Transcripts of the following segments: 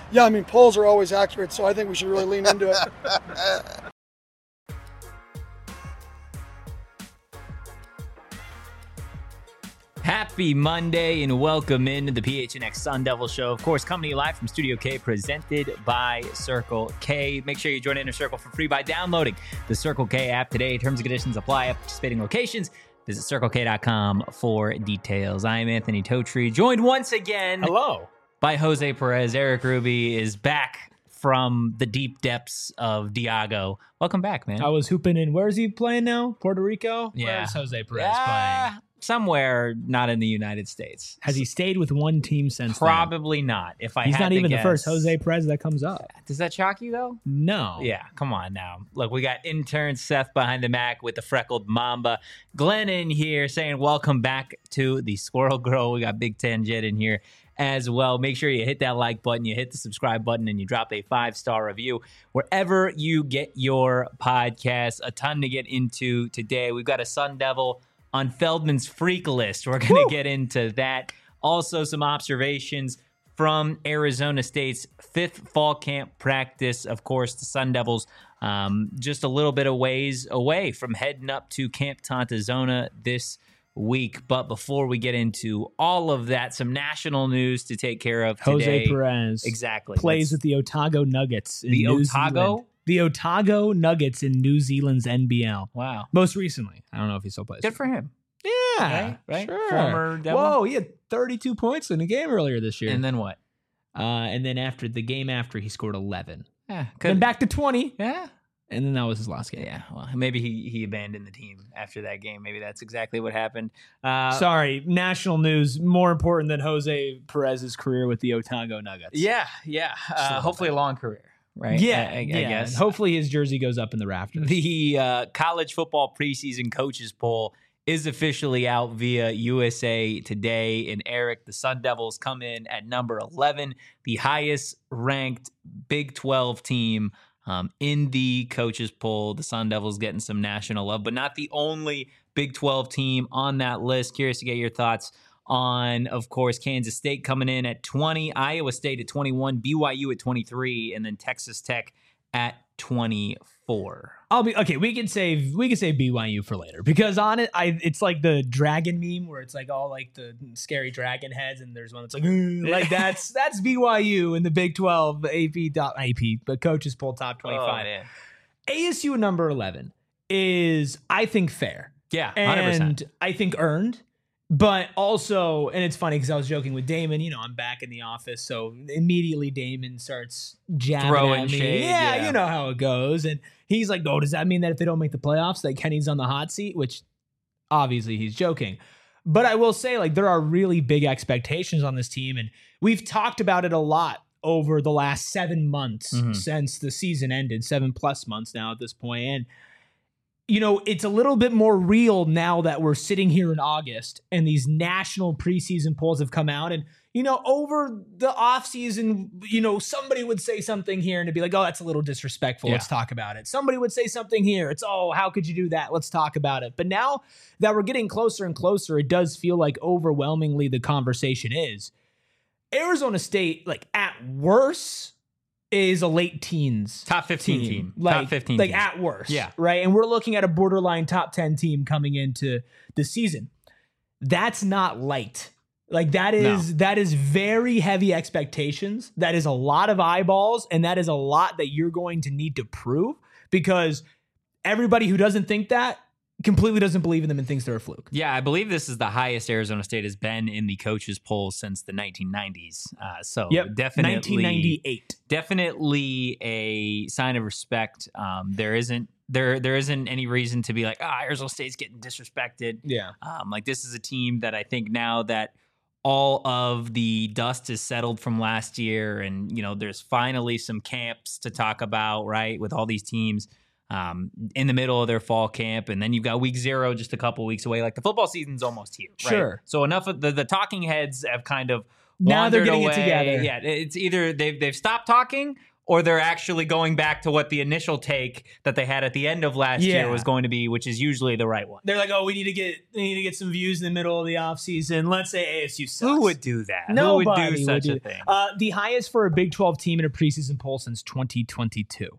Yeah, I mean, polls are always accurate, so I think we should really lean into it. Happy Monday and welcome into the PHNX Sun Devil Show. Of course, coming to you live from Studio K, presented by Circle K. Make sure you join Inner Circle for free by downloading the Circle K app today. Terms and conditions apply at participating locations. Visit CircleK.com for details. I am Anthony Totri, joined once again by Jose Perez. Eric Ruby is back from the deep depths of Diago. Welcome back, man. I was hooping in. Where is he playing now? Puerto Rico? Yeah. Where's Jose Perez playing? Somewhere not in the United States. Has he stayed with one team since Probably not. If I He's had not to even guess. the first Jose Perez that comes up. Does that shock you, though? No. Yeah, come on now. Look, we got intern Seth behind the Mac with the freckled Mamba. Glenn in here saying welcome back to the Squirrel Girl. We got Big Ten Jet in here as well. Make sure you hit that like button, you hit the subscribe button, and you drop a 5-star review wherever you get your podcast. A ton to get into today. We've got a Sun Devil on Feldman's Freak List. We're going to get into that. Also, some observations from Arizona State's 5th fall camp practice. Of course, the Sun Devils just a little bit of ways away from heading up to Camp Tontozona this week. But before we get into all of that, some national news to take care of today. Jose Perez plays with the Otago Nuggets in New Zealand. The Otago Nuggets in New Zealand's NBL. Wow. Most recently. I don't know if he still plays. Good for him. Yeah. Right? Sure. Former Devil. Whoa, he had 32 points in a game earlier this year. And then what? And then after the game after, he scored 11. Yeah. Then back to 20. Yeah. And then that was his last game. Yeah, well, maybe he abandoned the team after that game. Maybe that's exactly what happened. Sorry, national news more important than Jose Perez's career with the Otago Nuggets. Yeah. Hopefully a long career, right? Yeah, I guess. Hopefully his jersey goes up in the rafters. The college football preseason coaches poll is officially out via USA Today. And Eric, the Sun Devils come in at number 11, the highest ranked Big 12 team in the coaches poll. The Sun Devils getting some national love, but not the only Big 12 team on that list. Curious to get your thoughts on, of course, Kansas State coming in at 20, Iowa State at 21, BYU at 23, and then Texas Tech at 24. We can save BYU for later because on it, it's like the dragon meme where it's like all like the scary dragon heads, and there's one that's like that's BYU in the Big 12 but coaches poll top 25. Oh, ASU at number 11 is, I think, fair. Yeah, 100%. And I think earned. But also, and it's funny because I was joking with Damon, I'm back in the office, so immediately Damon starts jabbing throwing at me. shade. Yeah, you know how it goes. And he's like, does that mean that if they don't make the playoffs, that Kenny's on the hot seat? Which obviously he's joking. But I will say, like, there are really big expectations on this team, and we've talked about it a lot over the last 7 months since the season ended, 7+ months now at this point. And it's a little bit more real now that we're sitting here in August and these national preseason polls have come out. And, over the offseason, somebody would say something here and it'd be like, oh, that's a little disrespectful. Yeah. Let's talk about it. Somebody would say something here. It's, oh, how could you do that? Let's talk about it. But now that we're getting closer and closer, it does feel like overwhelmingly the conversation is Arizona State, like at worst, is a late teens top 15 team. Like, top 15 like team. at worst. Yeah. Right. And we're looking at a borderline top 10 team coming into the season. That's not light. Like that is very heavy expectations. That is a lot of eyeballs. And that is a lot that you're going to need to prove because everybody who doesn't think that completely doesn't believe in them and thinks they're a fluke. Yeah, I believe this is the highest Arizona State has been in the coaches poll since the 1990s. Definitely 1998. Definitely a sign of respect. There isn't any reason to be like, Arizona State's getting disrespected. Yeah. Like this is a team that I think now that all of the dust is settled from last year and, there's finally some camps to talk about, right, with all these teams in the middle of their fall camp. And then you've got week 0 just a couple weeks away. Like the football season's almost here, right? Sure. So enough of the talking heads have kind of now they're getting away. it together. Yeah, it's either they've stopped talking or they're actually going back to what the initial take that they had at the end of last year was going to be, which is usually the right one. They're like, oh, we need to get some views in the middle of the offseason. Let's say ASU sucks. Who would do that? Nobody Who would do such a thing? The highest for a Big 12 team in a preseason poll since 2022.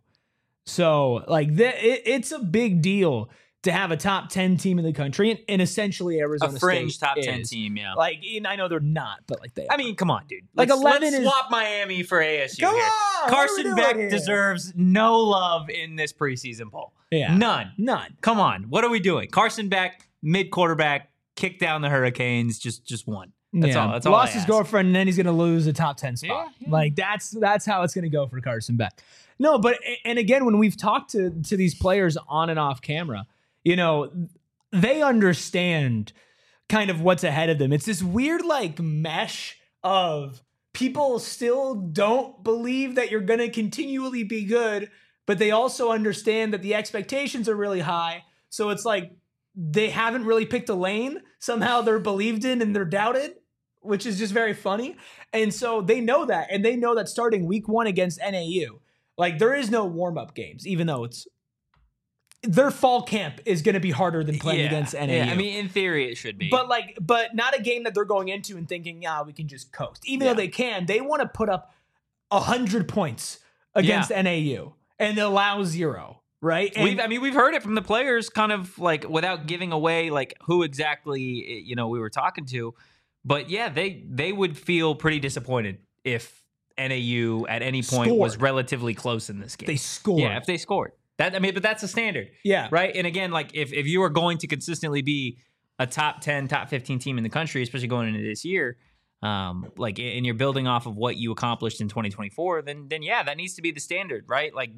So, like, it's a big deal to have a top 10 team in the country, and essentially Arizona A fringe State top 10 is. team, yeah. Like, and I know they're not, but like they are. I mean, come on, dude. Like, Let's 11 is- swap Miami for ASU Come here. on, Carson what are we Beck doing here? deserves no love in this preseason poll. Yeah. None. None. Come on. What are we doing? Carson Beck, mid-quarterback, kick down the Hurricanes, just one. That's all. That's all. Lost I his ask. girlfriend, and then he's going to lose a top 10 spot. Yeah. Like, that's how it's going to go for Carson Beck. No, but, and again, when we've talked to these players on and off camera, you know, they understand kind of what's ahead of them. It's this weird like mesh of people still don't believe that you're going to continually be good, but they also understand that the expectations are really high. So it's like they haven't really picked a lane. Somehow they're believed in and they're doubted, which is just very funny. And so they know that, and they know that starting week 1 against NAU, like there is no warm-up games, even though their fall camp is going to be harder than playing against NAU. Yeah, I mean, in theory, it should be. But not a game that they're going into and thinking, we can just coast. Even though they can, they want to put up 100 points against NAU and allow 0, right? And we've heard it from the players, kind of like without giving away like who exactly we were talking to, but yeah, they would feel pretty disappointed if NAU at any point was relatively close in this game. They scored. Yeah, if they scored. But that's the standard. Yeah. Right? And again, like if you are going to consistently be a top 10, top 15 team in the country, especially going into this year, and you're building off of what you accomplished in 2024, then yeah, that needs to be the standard, right? Like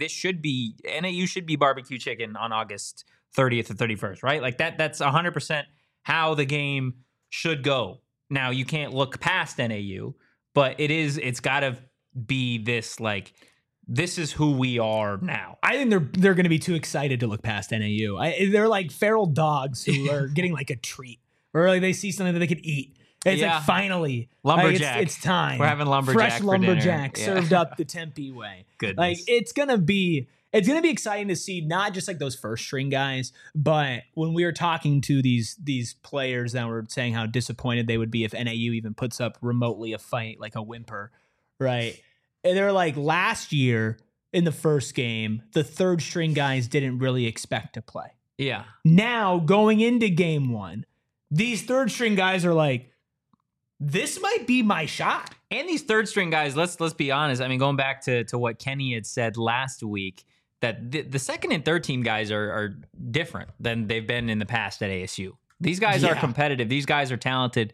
NAU should be barbecue chicken on August 30th or 31st, right? Like that's 100% how the game should go. Now, you can't look past NAU, but it's got to be this like, this is who we are now. I think they're going to be too excited to look past NAU. They're like feral dogs who are getting like a treat, or like they see something that they could eat. And it's like finally lumberjack. It's time. We're having lumberjack. Fresh for lumberjack dinner. served up the Tempe way. Goodness. Like it's gonna be exciting to see not just like those first string guys, but when we were talking to these players that were saying how disappointed they would be if NAU even puts up remotely a fight, like a whimper, right? And they're like, last year in the first game, the third string guys didn't really expect to play. Yeah. Now, going into game 1, these third string guys are like, this might be my shot. And these third string guys, let's be honest. I mean, going back to what Kenny had said last week, that the second and third team guys are different than they've been in the past at ASU. These guys are competitive. These guys are talented.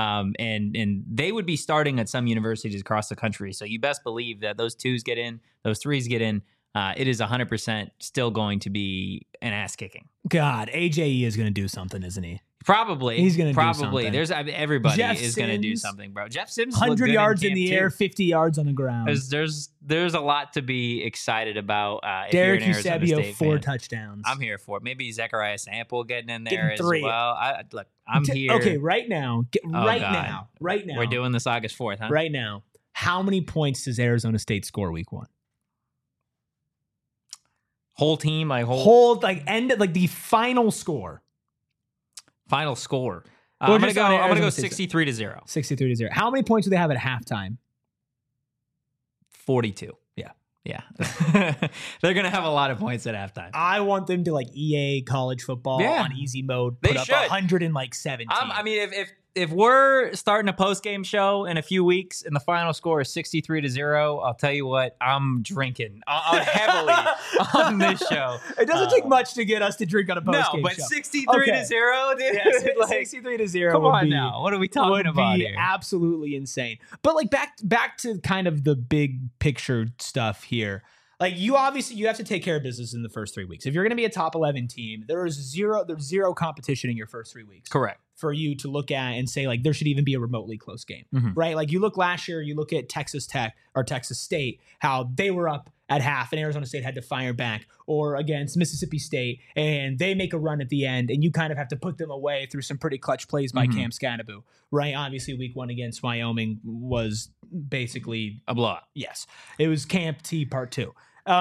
And they would be starting at some universities across the country. So you best believe that those 2s get in, those 3s get in. It is 100% still going to be an ass kicking. God, AJE is going to do something, isn't he? Probably. He's going to do probably. something. Everybody Jeff is going to do Sims, something, bro. Jeff Sims 100 yards in the air, too. 50 yards on the ground. There's a lot to be excited about. If Derek you're an Arizona Eusebio, State 4 fan. touchdowns. I'm here for it. Maybe Zechariah Sample getting in there Getting 3. as well. Look, I'm here. Okay, right now. Right God. now. We're doing this August 4th, huh? Right now. How many points does Arizona State score week 1? Whole team, End like the final score. Final score. Well, I'm just gonna on go Arizona State. 63-0. 63-0. How many points do they have at halftime? 42. Yeah. They're going to have a lot of points at halftime. I want them to like EA college football on easy mode. Put They up should. 117. I mean, if we're starting a post-game show in a few weeks and the final score is 63-0, I'll tell you what, I'm drinking heavily on this show. It doesn't take much to get us to drink on a post-game but show. 63-0, dude. Yes, like, 63-0. come would on be, now. What are we talking would about be here? absolutely insane. But like back to kind of the big picture stuff here. Like you have to take care of business in the first 3 weeks. If you're going to be a top 11 team, there's zero competition in your first 3 weeks. Correct. For you to look at and say like there should even be a remotely close game, right? Like you look last year, you look at Texas Tech or Texas State, how they were up at half and Arizona State had to fire back, or against Mississippi State and they make a run at the end and you kind of have to put them away through some pretty clutch plays by Cam Scannaboo, right? Obviously week 1 against Wyoming was basically A blowout. yes, it was Camp T Part 2.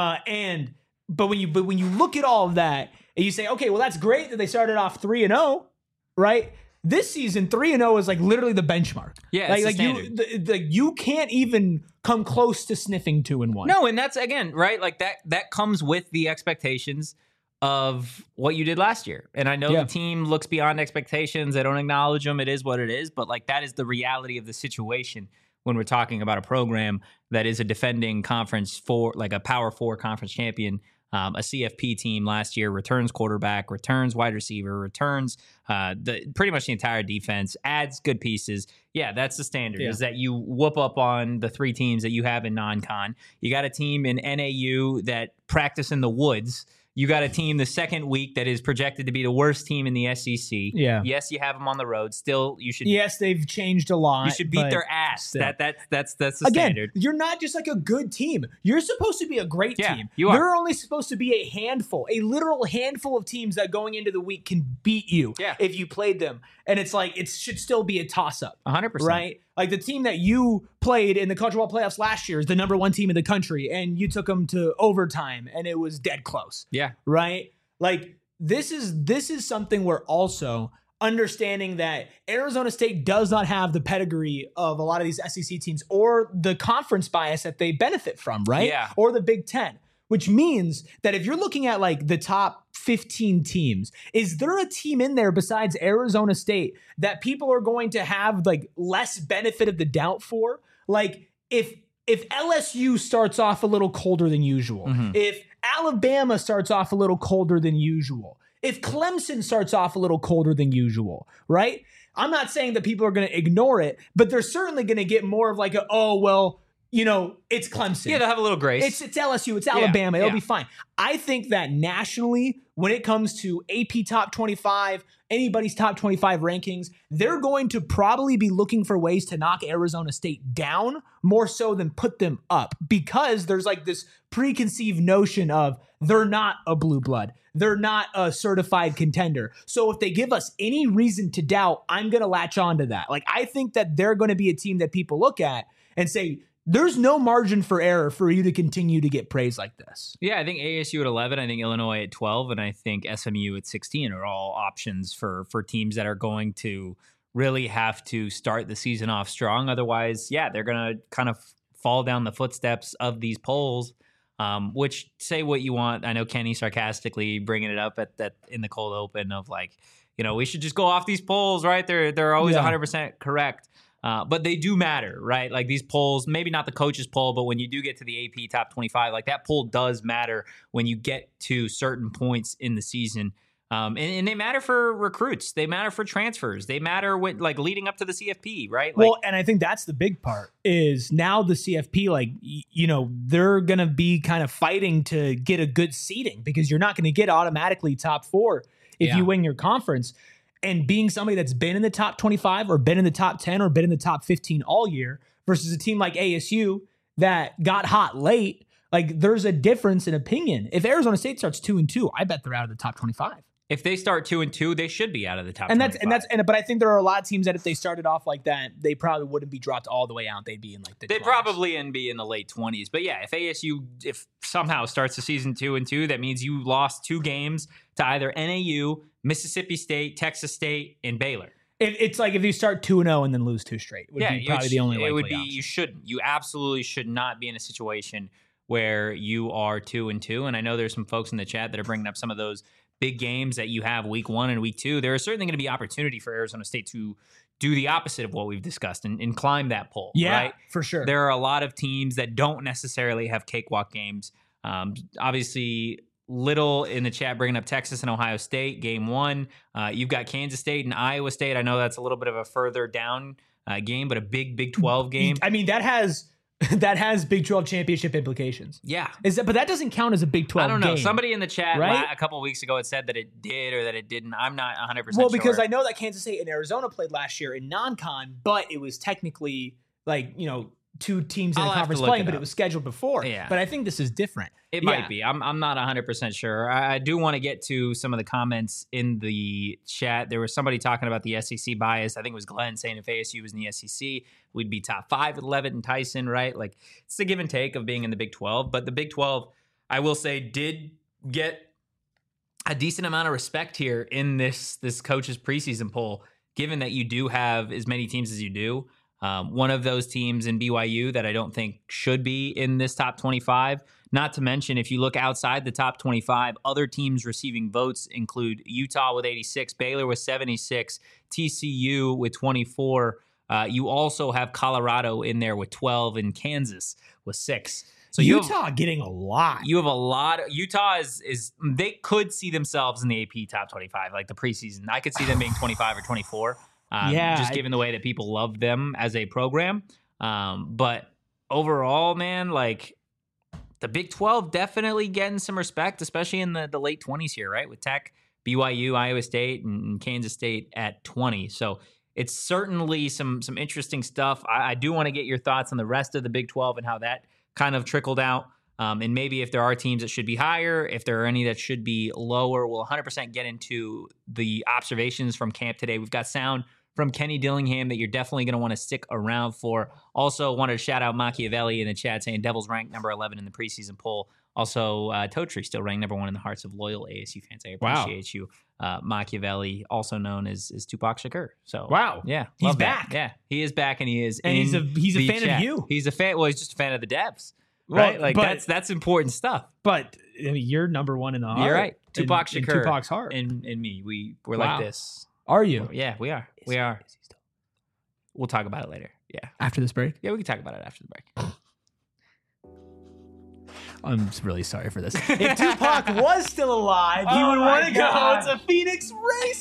But when you look at all of that and you say, okay, well, that's great that they started off 3-0, right? This season 3-0 is like literally the benchmark. Yeah, it's the standard. You can't even come close to sniffing 2-1. No, and that's again, right? Like that comes with the expectations of what you did last year. And I know Yeah. the team looks beyond expectations. They don't acknowledge them. It is what it is. But like that is the reality of the situation when we're talking about a program that is a defending conference for like a Power 4 conference champion. A CFP team last year returns quarterback, returns wide receiver, returns pretty much the entire defense, adds good pieces. Yeah, that's the standard, is that you whoop up on the 3 teams that you have in non-con. You got a team in NAU that practice in the woods. You got a team the second week that is projected to be the worst team in the SEC. Yeah. Yes, you have them on the road. Still, you should. Yes, they've changed a lot. You should beat but their ass. still. That's the Again, standard. you're not just like a good team. You're supposed to be a great Yeah, team. you are. There are only supposed to be a literal handful of teams that going into the week can beat you Yeah. if you played them. And it's like, it should still be a toss-up. 100%. Right? Like the team that you played in the college football playoffs last year is the number 1 team in the country, and you took them to overtime, and it was dead close. Yeah. Right? Like this is something where also understanding that Arizona State does not have the pedigree of a lot of these SEC teams or the conference bias that they benefit from, right? Yeah. Or the Big Ten, which means that if you're looking at like the top 15 teams, is there a team in there besides Arizona State that people are going to have like less benefit of the doubt for? Like if LSU starts off a little colder than usual, if Alabama starts off a little colder than usual, if Clemson starts off a little colder than usual, right? I'm not saying that people are going to ignore it, but they're certainly going to get more of like it's Clemson. Yeah, they'll have a little grace. It's LSU, it's Alabama, it'll yeah. be fine. I think that nationally, when it comes to AP top 25, anybody's top 25 rankings, they're going to probably be looking for ways to knock Arizona State down more so than put them up, because there's like this preconceived notion of they're not a blue blood. They're not a certified contender. So if they give us any reason to doubt, I'm going to latch on to that. Like, I think that they're going to be a team that people look at and say, there's no margin for error for you to continue to get praise like this. Yeah, I think ASU at 11, I think Illinois at 12, and I think SMU at 16 are all options for teams that are going to really have to start the season off strong. Otherwise, yeah, they're going to kind of fall down the footsteps of these polls, which, say what you want. I know Kenny sarcastically bringing it up at that in the cold open of like, we should just go off these polls, right? They're always 100% correct. But they do matter, right? Like these polls, maybe not the coaches poll, but when you do get to the AP top 25, like that poll does matter when you get to certain points in the season. And they matter for recruits. They matter for transfers. They matter with like leading up to the CFP, right? Like, Well, and I think that's the big part is now the CFP, like, they're going to be kind of fighting to get a good seeding because you're not going to get automatically top 4 if you win your conference. And being somebody that's been in the top 25 or been in the top 10 or been in the top 15 all year versus a team like ASU that got hot late, like there's a difference in opinion. If Arizona State starts 2-2, I bet they're out of the top 25. if they start 2-2, they should be out of the top 25. But I think there are a lot of teams that if they started off like that, they probably wouldn't be dropped all the way out. They'd be in like the They'd 20s. probably be in the late 20s. But yeah, if ASU somehow starts the season 2-2, that means you lost 2 games to either NAU, Mississippi State, Texas State, and Baylor. It's like if you start 2-0 and then lose 2 straight, would be probably the only likely it would be option. you shouldn't. You absolutely should not be in a situation where you are 2-2. And I know there's some folks in the chat that are bringing up some of those big games that you have week 1 and week 2. There is certainly going to be opportunity for Arizona State to do the opposite of what we've discussed and climb that pole. Yeah, right? for sure. There are a lot of teams that don't necessarily have cakewalk games. Obviously, Little in the chat bringing up Texas and Ohio State, game 1. You've got Kansas State and Iowa State. I know that's a little bit of a further down game, but a big 12 game. I mean, that has Big 12 championship implications. Yeah. But that doesn't count as a Big 12 I don't know. game. Somebody in the chat right? a couple of weeks ago had said that it did or that it didn't. I'm not 100% Well, because sure. I know that Kansas State and Arizona played last year in non-con, but it was technically like, two teams in I'll the have to conference look playing, it but up. it was scheduled before. Yeah. But I think this is different. It Yeah. might be. I'm not 100% sure. I do want to get to some of the comments in the chat. There was somebody talking about the SEC bias. I think it was Glenn saying if ASU was in the SEC, we'd be top 5 with Levitt and Tyson, right? Like, it's the give and take of being in the Big 12. But the Big 12, I will say, did get a decent amount of respect here in this coach's preseason poll, given that you do have as many teams as you do. One of those teams in BYU that I don't think should be in this top 25. Not to mention, if you look outside the top 25, other teams receiving votes include Utah with 86, Baylor with 76, TCU with 24. You also have Colorado in there with 12 and Kansas with 6. So Utah getting a lot. You have a lot. Utah is they could see themselves in the AP top 25, like the preseason. I could see them being 25 or 24. Just given the way that people love them as a program. But overall, man, like the Big 12 definitely getting some respect, especially in the late 20s here, right? With Tech, BYU, Iowa State, and Kansas State at 20. So it's certainly some interesting stuff. I do want to get your thoughts on the rest of the Big 12 and how that kind of trickled out. And maybe if there are teams that should be higher, if there are any that should be lower, we'll 100% get into the observations from camp today. We've got sound from Kenny Dillingham that you're definitely going to want to stick around for. Also wanted to shout out Machiavelli in the chat saying Devils ranked number 11 in the preseason poll. Also, Totri still ranked number 1 in the hearts of loyal ASU fans. I appreciate you. Machiavelli, also known as Tupac Shakur. So wow, yeah, he's back. Yeah, he is back, and he is. And he's a fan chat. of you. He's a fan. Well, he's just a fan of the Devs, right? Well, like but, that's important stuff. But I mean, you're number 1 in the heart. You're right. Tupac in Shakur, Tupac's heart, and me. We're Wow. like this. Are you? Yeah, we are. We are. We'll talk about it later. Yeah. After this break? Yeah, we can talk about it after the break. I'm really sorry for this. If Tupac was still alive, he Oh would my want to go God. to Phoenix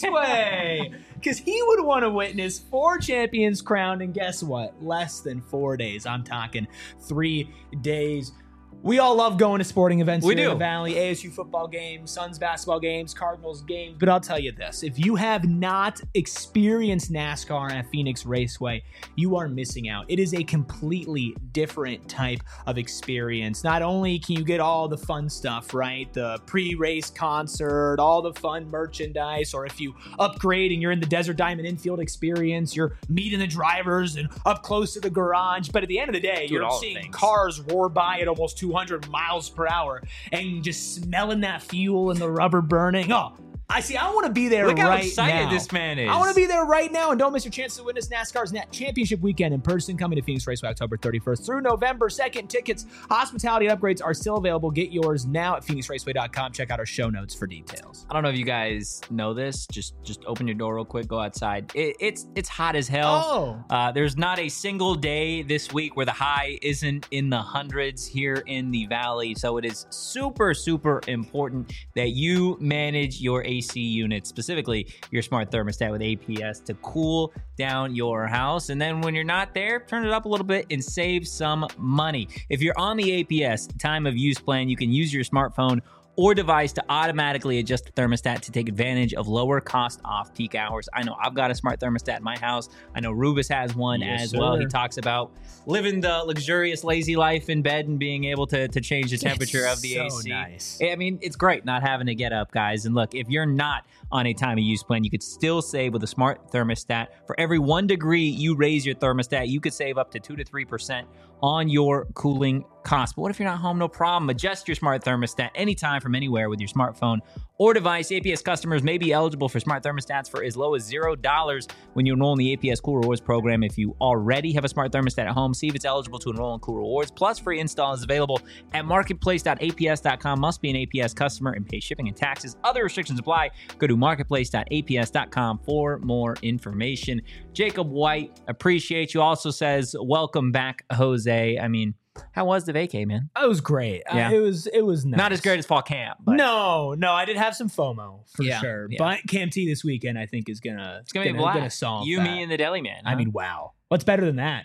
Raceway because he would want to witness 4 champions crowned in guess what? Less than 4 days. I'm talking 3 days. We all love going to sporting events We here in do. the Valley, ASU football games, Suns basketball games, Cardinals games. But I'll tell you this, if you have not experienced NASCAR at Phoenix Raceway, you are missing out. It is a completely different type of experience. Not only can you get all the fun stuff, right? The pre-race concert, all the fun merchandise, or if you upgrade and you're in the Desert Diamond infield experience, you're meeting the drivers and up close to the garage. But at the end of the day, Doing you're all the seeing things. cars roar by at almost 200 miles per hour and just smelling that fuel and the rubber burning. Oh, I see. I want to be there Look how right excited now. this man is. I want to be there right now, and don't miss your chance to witness NASCAR's Championship Weekend in person, coming to Phoenix Raceway October 31st through November 2nd. Tickets, hospitality upgrades are still available. Get yours now at phoenixraceway.com. Check out our show notes for details. I don't know if you guys know this. Just open your door real quick. Go outside. It's hot as hell. There's not a single day this week where the high isn't in the hundreds here in the Valley. So it is super, super important that you manage your AC unit, specifically your smart thermostat with APS, to cool down your house. And then when you're not there, turn it up a little bit and save some money. If you're on the APS time of use plan, you can use your smartphone or device to automatically adjust the thermostat to take advantage of lower cost off-peak hours. I know I've got a smart thermostat in my house. I know Rubus has one as well. sir. He talks about living the luxurious, lazy life in bed and being able to change the temperature of the so AC. nice. I mean, it's great not having to get up, guys. And look, if you're not on a time of use plan, you could still save with a smart thermostat. For every 1 degree you raise your thermostat, you could save up to 2 to 3% on your cooling costs. But what if you're not home? No problem. Adjust your smart thermostat anytime from anywhere with your smartphone or device. APS customers may be eligible for smart thermostats for as low as $0 when you enroll in the APS Cool Rewards program. If you already have a smart thermostat at home, see if it's eligible to enroll in Cool Rewards. Plus, free install is available at marketplace.aps.com. Must be an APS customer and pay shipping and taxes. Other restrictions apply. Go to marketplace.aps.com for more information. Jacob White, appreciate you. Also says, welcome back, Jose. I mean, how was the vacay, man? It was great. Yeah. It was nice. Not as great as fall camp, but No, I did have some FOMO for Yeah, sure. yeah. But Camp T this weekend, I think, is gonna it's gonna be a blast. solve You, that. me, and the deli man. I mean, wow. What's better than that?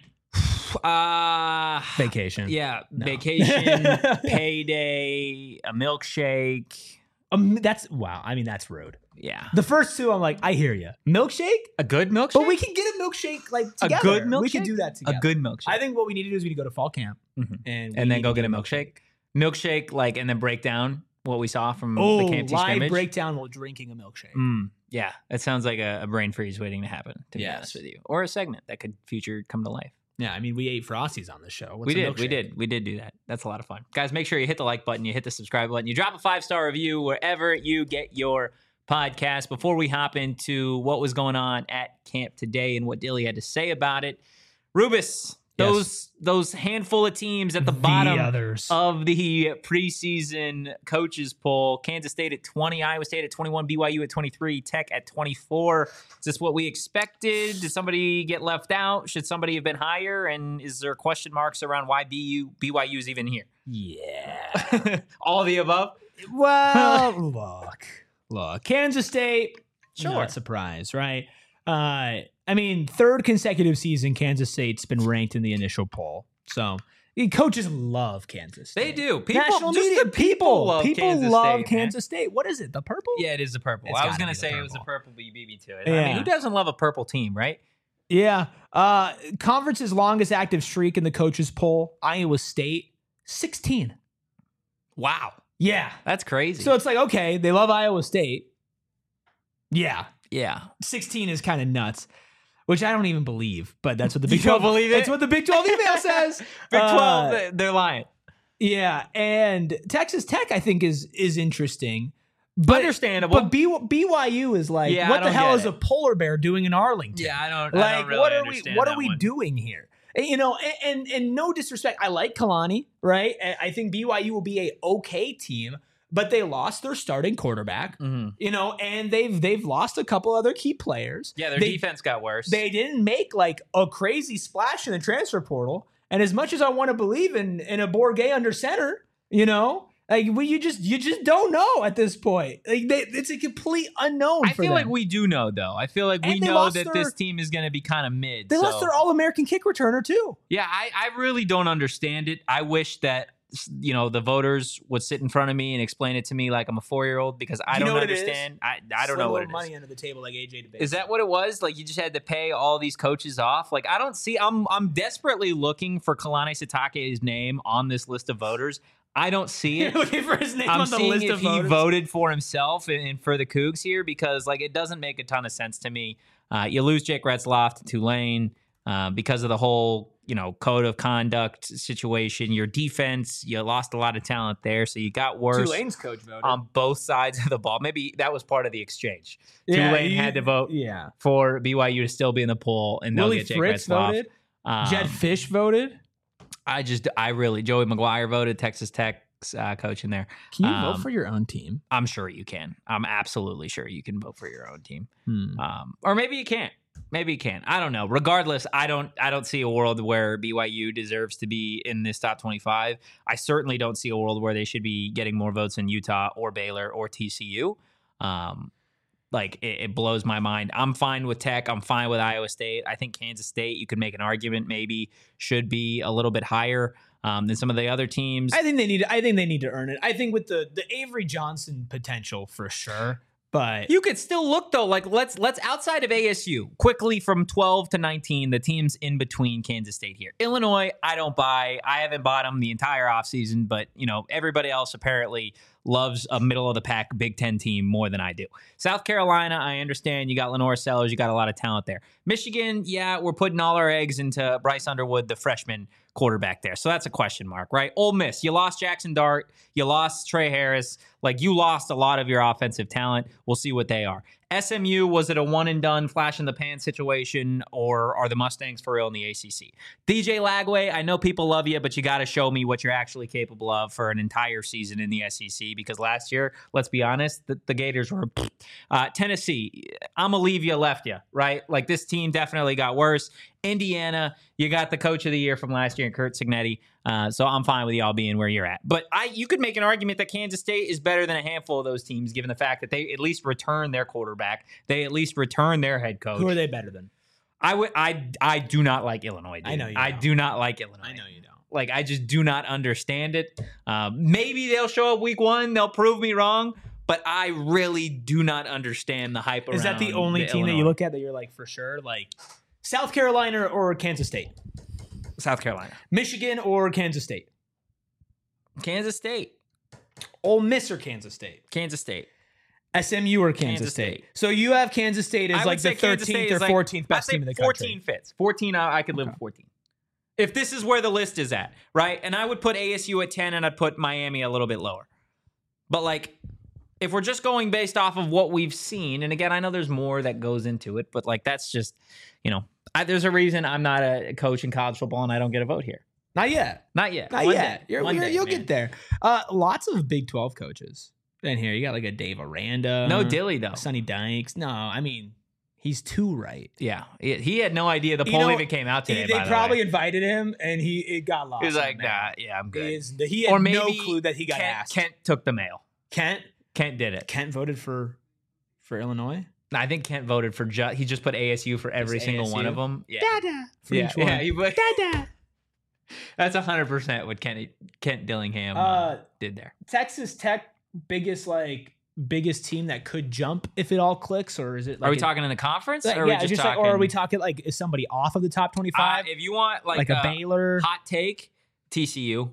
Vacation. Vacation. Yeah, No. vacation, payday, a milkshake, That's wow. I mean, that's rude. Yeah. The first two, I'm like, I hear you. Milkshake, A good milkshake? but we can get a milkshake like together. A good milkshake? We can do that together. A good milkshake. I think what we need to do is we need to go to fall camp Mhm. and And then need go to get a milkshake. Milkshake, like, and then break down what we saw from the Camp T live scrimmage. breakdown while drinking a milkshake. Yeah, it sounds like a brain freeze waiting to happen, to be Yes. honest with you. Or a segment that could future come to life. Yeah, I mean, we ate Frosties on this show. What's We a did do that. That's a lot of fun. Guys, make sure you hit the like button, you hit the subscribe button, you drop a 5-star review wherever you get your podcast. Before we hop into what was going on at camp today and what Dilly had to say about it, Rubus, those handful of teams at the bottom others. of the preseason coaches poll: Kansas State at 20, Iowa State at 21, BYU at 23, Tech at 24. Is this what we expected? Did somebody get left out? Should somebody have been higher? And is there question marks around why BYU is even here? Yeah. All the above? Well, look, Kansas State, Sure. not surprised, right? I mean, third consecutive season, Kansas State's been ranked in the initial poll. So coaches love Kansas State. They do. National just media, the people love Kansas love State, Kansas State. What is it? The purple? Yeah, it is the purple. It's I was gotta going be to the say it was the purple. purple, but you beat me to it. I Yeah. mean, who doesn't love a purple team, right? Yeah. Conference's longest active streak in the coaches poll, Iowa State, 16. Wow. Yeah. That's crazy. So it's like, okay, they love Iowa State. Yeah. yeah. 16 is kind of nuts, which I don't even believe, but that's what the Big You don't 12 believe it? That's what the Big 12 email says. Big 12, they're lying. Yeah, and Texas Tech I think is interesting. But Understandable. But BYU is like, Yeah, I what the don't hell get is it. a polar bear doing in Arlington? Yeah, I don't Like, really what are understand what that are we one. doing here? You know, and no disrespect, I like Kalani, right? And I think BYU will be a okay team, but they lost their starting quarterback, Mhm. you know, and they've lost a couple other key players. Yeah, their They- defense got worse. They didn't make like a crazy splash in the transfer portal. And as much as I want to believe in a Bourget under center, you know, like you just don't know at this point. Like it's a complete unknown. I for feel them. like we do know, though. I feel like we And they know lost that their- this team is going to be kind of mid. They so- lost their All-American kick returner too. Yeah, I really don't understand it. I wish that, you know, the voters would sit in front of me and explain it to me like I'm a 4-year-old, because I You know don't what it is? understand. I don't know what it is. Money under the table like AJ DeBase. Is that what it was? Like you just had to pay all these coaches off? Like I don't see. I'm desperately looking for Kalani Sitake's name on this list of voters. I don't see You're it. looking for his name I'm on the seeing list if of he voters? voted for himself and for the Cougs here, because like it doesn't make a ton of sense to me. You lose Jake Retzloff to Tulane because of the whole, you know, code of conduct situation. Your defense, you lost a lot of talent there, so you got worse Tulane's coach voted. on both sides of the ball. Maybe that was part of the exchange. Yeah, Tulane had to vote Yeah. for BYU to still be in the poll, and they'll Willie get Jake Fritz Retzloff. voted. Um, Jed Fish voted. Joey McGuire voted, Texas Tech's coach in there. Can you vote for your own team? I'm sure you can. I'm absolutely sure you can vote for your own team. Hmm. Or maybe you can't. Maybe you can. I don't know. Regardless, I don't see a world where BYU deserves to be in this top 25. I certainly don't see a world where they should be getting more votes than Utah or Baylor or TCU. Like it blows my mind. I'm fine with Tech. I'm fine with Iowa State. I think Kansas State, you could make an argument, maybe should be a little bit higher than some of the other teams. I think they need to earn it. I think with the Avery Johnson potential for sure. But You could still look though, like let's outside of ASU, quickly from 12 to 19, the teams in between Kansas State here. Illinois, I don't buy. I haven't bought them the entire offseason, but you know, everybody else apparently loves a middle of the pack Big Ten team more than I do. South Carolina, I understand you got Lenore Sellers, you got a lot of talent there. Michigan, yeah, we're putting all our eggs into Bryce Underwood, the freshman quarterback there. So that's a question mark, right? Ole Miss, you lost Jackson Dart, you lost Trey Harris, like you lost a lot of your offensive talent. We'll see what they are. SMU, was it a one and done flash in the pan situation, or are the Mustangs for real in the ACC? DJ Lagway, I know people love you, but you got to show me what you're actually capable of for an entire season in the SEC, because last year, let's be honest, the Gators were Tennessee, I'm gonna leave you, left you, right? Like this team definitely got worse. Indiana, you got the coach of the year from last year, Kurt Cignetti. So I'm fine with y'all being where you're at. But you could make an argument that Kansas State is better than a handful of those teams, given the fact that they at least return their quarterback. They at least return their head coach. who are they better than? I do not like Illinois, dude. I know you I don't. do not like Illinois. I know you don't. Like, I just do not understand it. Maybe they'll show up week one. They'll prove me wrong. but I really do not understand the hype around. Is that the only team that you look at that you're like for sure? Like South Carolina or Kansas State? South Carolina. Michigan or Kansas State? Kansas State. Ole Miss or Kansas State? Kansas State. SMU or Kansas Kansas State? State. So you have Kansas State as I like would the say Kansas State 13th or is like- 14th best I'd say team in the 14 country. fits. 14, I could live with 14. If this is where the list is at, right? And I would put ASU at 10 and I'd put Miami a little bit lower. But like, if we're just going based off of what we've seen, and again, I know there's more that goes into it, but like, that's just, there's a reason I'm not a coach in college football and I don't get a vote here. Not yet. Not yet. Not One yet. day. One day, You'll man. get there. Lots of Big 12 coaches in here. You got like a Dave Aranda. No Dilly, though. Sonny Dykes. No, I mean, he's 2 right. Yeah. He had no idea the poll even came out today. They by the probably way. invited him, and it got lost. He was like, in the mail. nah, yeah, I'm good. He had Or maybe no clue that he got Kent, asked. Kent took the mail. Kent did it. Kent voted for Illinois. I think Kent voted for he just put ASU for every Just single one ASU? of them. Yeah. Dada. For Yeah, each one. yeah, he put- Dada. That's 100% what Kent Dillingham did there. Texas Tech biggest team that could jump if it all clicks, or is it? Like Are we talking in the conference? Like, or are we yeah, just just talking? or are we talking like is somebody off of the top 25? If you want like a Baylor? hot take, TCU.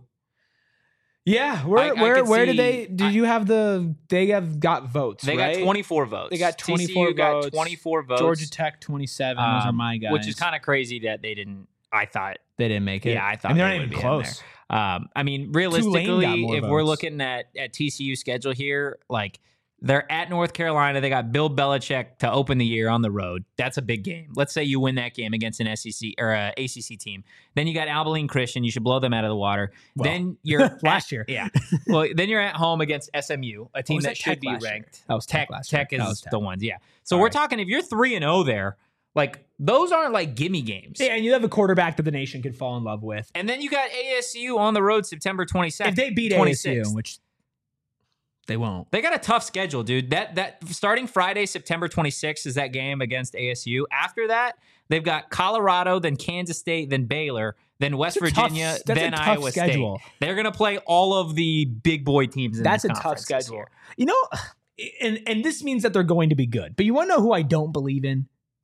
Yeah, I could where did see- you have they have got votes? They right? got 24 votes. They got 24 TCU got votes. 24 votes. Georgia Tech 27. Those are my guys. Which is kind of crazy that they didn't. I thought. they didn't make it. Yeah, I thought they're they not would even be in close. I mean, got realistically, more if we're votes. looking at TCU schedule here, like they're at North Carolina, they got Bill Belichick to open the year on the road. That's a big game. Let's say you win that game against an SEC or a ACC team. Then you got Abilene Christian. You should blow them out of the water. Well, then you're last year. Yeah. Well, then you're at home against SMU, a team was that that, should Tech be last year? ranked. That was Tech last year. Tech That was is Tech. the ones. Yeah. So All we're right. talking if you're 3-0 there, like those aren't like gimme games. Yeah, and you have a quarterback that the nation could fall in love with. And then you got ASU on the road September 22nd. If they beat 26th. ASU, which they won't. They got a tough schedule, dude. That starting Friday, September 26th is that game against ASU. After that, they've got Colorado, then Kansas State, then Baylor, then West That's a tough- Virginia, that's a then tough Iowa schedule. State. They're going to play all of the big boy teams in That's this a tough conference this schedule. year. You know, and this means that they're going to be good. But you want to know who I don't believe in?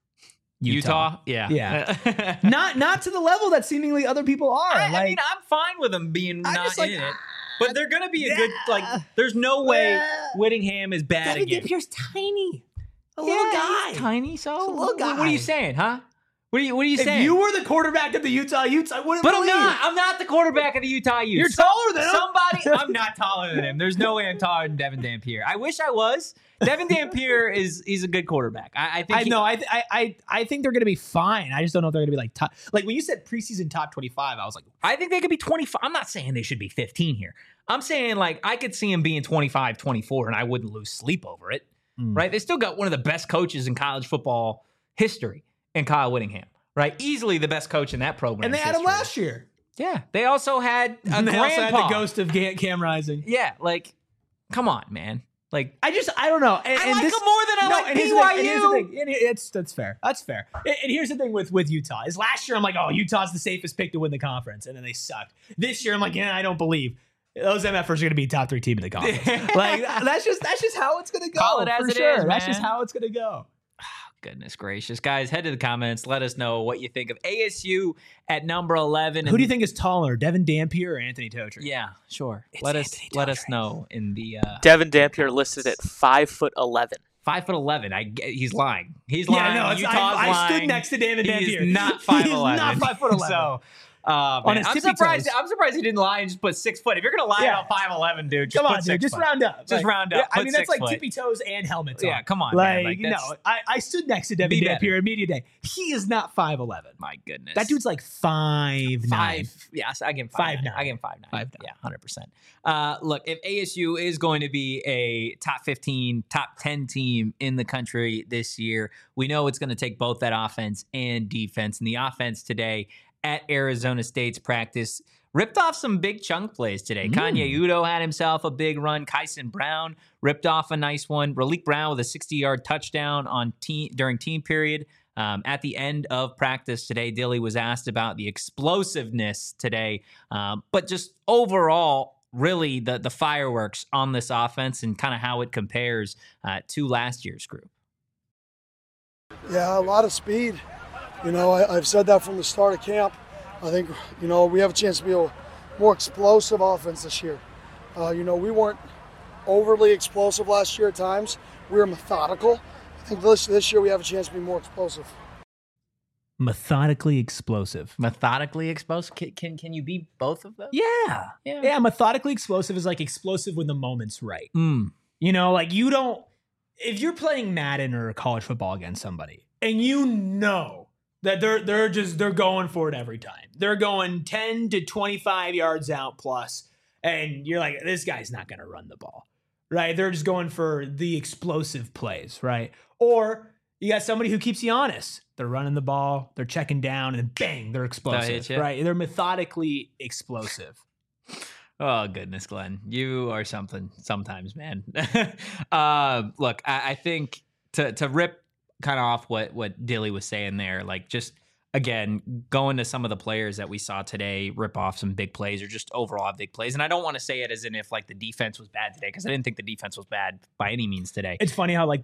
Utah? Yeah. Yeah. Not to the level that seemingly other people are. I mean, I'm fine with them being I'm not just like, in it. But they're going to be a good, like, there's no way Whittingham is bad again. Dampier's tiny. A He's tiny, so He's a little What are guy. you saying, huh? What are you If saying? you were the quarterback of the Utah Utes, I wouldn't But I'm believe. not. I'm not the quarterback of the Utah Utes. You're taller than him. Somebody. I'm not taller than him. There's no way I'm taller than Devin Dampier. I wish I was. Devin Dampier he's a good quarterback. I think. I think they're going to be fine. I just don't know if they're going to be like top. Like when you said preseason top 25, I was like, I think they could be 25. I'm not saying they should be 15 here. I'm saying like I could see him being 25, 24, and I wouldn't lose sleep over it. Right? They still got one of the best coaches in college football history in Kyle Whittingham. Right? Easily the best coach in that program. and they had him last year. Yeah. They also had a And they also had grandpa. the ghost of Cam Rising. Yeah. Like, come on, man. Like, I don't know. And, I and like this, him more than I like and here's the thing, and here's the BYU. thing, and that's fair. That's fair. And here's the thing with Utah is last year I'm like, oh, Utah's the safest pick to win the conference, and then they sucked. This year I'm like, yeah, I don't believe those MFers are going to be a top 3 team in the conference. Like that's just how it's going to go. Call it as for it sure. is, That's just man. how it's going to go. Goodness gracious. Guys, head to the comments. Let us know what you think of ASU at number 11. Who do you think is taller, Devin Dampier or Anthony Totri? Yeah, sure. It's Let Anthony us Totri. know in the Devin Dampier listed at 5'11". 5'11". He's lying. He's Yeah, lying. no, Utah's I lying. stood next to Devin Dampier. He's not 5'11". He is not 5'11". So, On man, his I'm tippy surprised. toes. I'm surprised he didn't lie and just put 6 foot. If you're gonna lie Yeah. about 5'11", dude, just Come put on, 6 dude. Just foot. round up. Just round up. I Put mean, that's 6 like foot. tippy toes and helmets Yeah, on. come on, like, man. Like, you that's- know, I stood next to Devin Be Dampier better. in media day. He is not 5'11". My goodness. That dude's like 5'9". 5. Yes, I give him 5'9". 5'9". I give him 5'9". 5'9". Yeah, 100%. Look, if ASU is going to be a top 15, top 10 team in the country this year, we know it's going to take both that offense and defense. And the offense today at Arizona State's practice ripped off some big chunk plays today. Kanye Udo had himself a big run. Kyson Brown ripped off a nice one. Raleek Brown with a 60-yard touchdown on during team period. At the end of practice today, Dilly was asked about the explosiveness today, but just overall, really the fireworks on this offense and kind of how it compares to last year's group. Yeah, a lot of speed. I've said that from the start of camp. I think, we have a chance to be a more explosive offense this year. We weren't overly explosive last year at times. We were methodical. I think this year we have a chance to be more explosive. Methodically explosive. Methodically explosive? Can you be both of those? Yeah, methodically explosive is like explosive when the moment's right. Like if you're playing Madden or college football against somebody and that they're going for it every time. They're going 10 to 25 yards out plus, and you're like, this guy's not going to run the ball, right? They're just going for the explosive plays, right? Or you got somebody who keeps you honest. They're running the ball, they're checking down, and then bang, they're explosive, right? They're methodically explosive. Oh, goodness, Glenn. You are something sometimes, man. Look, I think to rip kind of off what Dilly was saying there, like just, again, going to some of the players that we saw today rip off some big plays or just overall big plays. And I don't want to say it as in if like the defense was bad today, because I didn't think the defense was bad by any means today. It's funny how like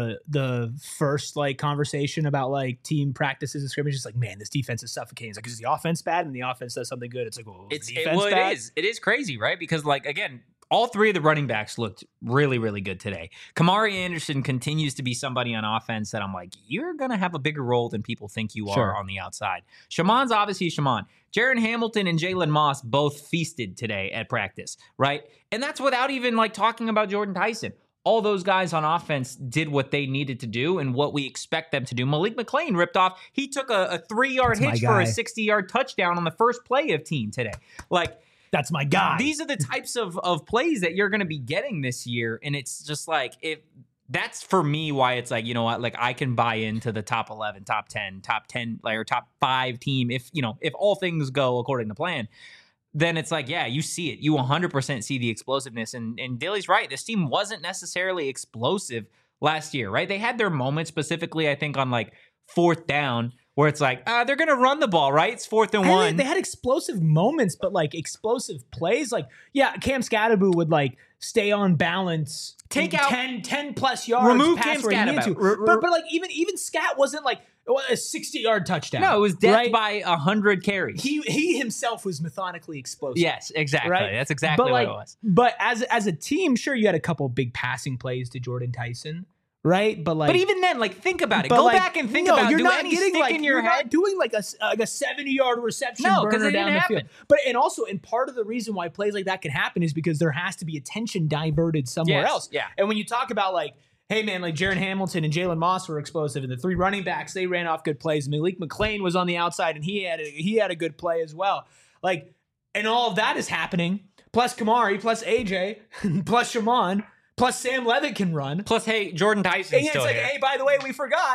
the first like conversation about like team practices and scrimmages, like, man, this defense is suffocating. It's like, is the offense bad? And the offense does something good. It's like, well, is the defense bad? It is crazy, right? Because like, again, all three of the running backs looked really, really good today. Kamari Anderson continues to be somebody on offense that I'm like, you're going to have a bigger role than people think you are on the outside. Shaman's obviously Shaman. Jaron Hamilton and Jalen Moss both feasted today at practice, right? And that's without even like talking about Jordan Tyson. All those guys on offense did what they needed to do and what we expect them to do. Malik McClain ripped off. He took a 3-yard hitch for a 60-yard touchdown on the first play of team today. Like, that's my guy. These are the types of plays that you're going to be getting this year. And it's just like, that's for me why it's like, you know what, like I can buy into the top 11, top 10, like, or top 5 team. If all things go according to plan, then it's like, yeah, you see it. You 100% see the explosiveness. And Dilly's right. This team wasn't necessarily explosive last year, right? They had their moments, specifically, I think, on like 4th down, where it's like, they're going to run the ball, right? It's 4th and 1. They had explosive moments, but like explosive plays. Like, yeah, Cam Scadaboo would like stay on balance, take out 10 plus yards, remove pass Cam where he needed to. But like even Scat wasn't like a 60-yard touchdown. No, it was death by 100 carries. He himself was methodically explosive. Yes, exactly. Right? That's exactly what it was. But as a team, sure, you had a couple big passing plays to Jordan Tyson. Right, but even then, like, think about it. Go back and think about. You're not getting getting like in your head. Not doing like a 70-yard reception. No, because it didn't happen. And part of the reason why plays like that can happen is because there has to be attention diverted somewhere else. Yeah. And when you talk about like, hey man, like Jaron Hamilton and Jalen Moss were explosive, and the 3 running backs, they ran off good plays. Malik McClain was on the outside, and he had a good play as well. Like, and all of that is happening. Plus Kamari, plus AJ, plus Shaman. Plus, Sam Levitt can run. Plus, hey, Jordan Tyson's still here. Hey, by the way, we forgot.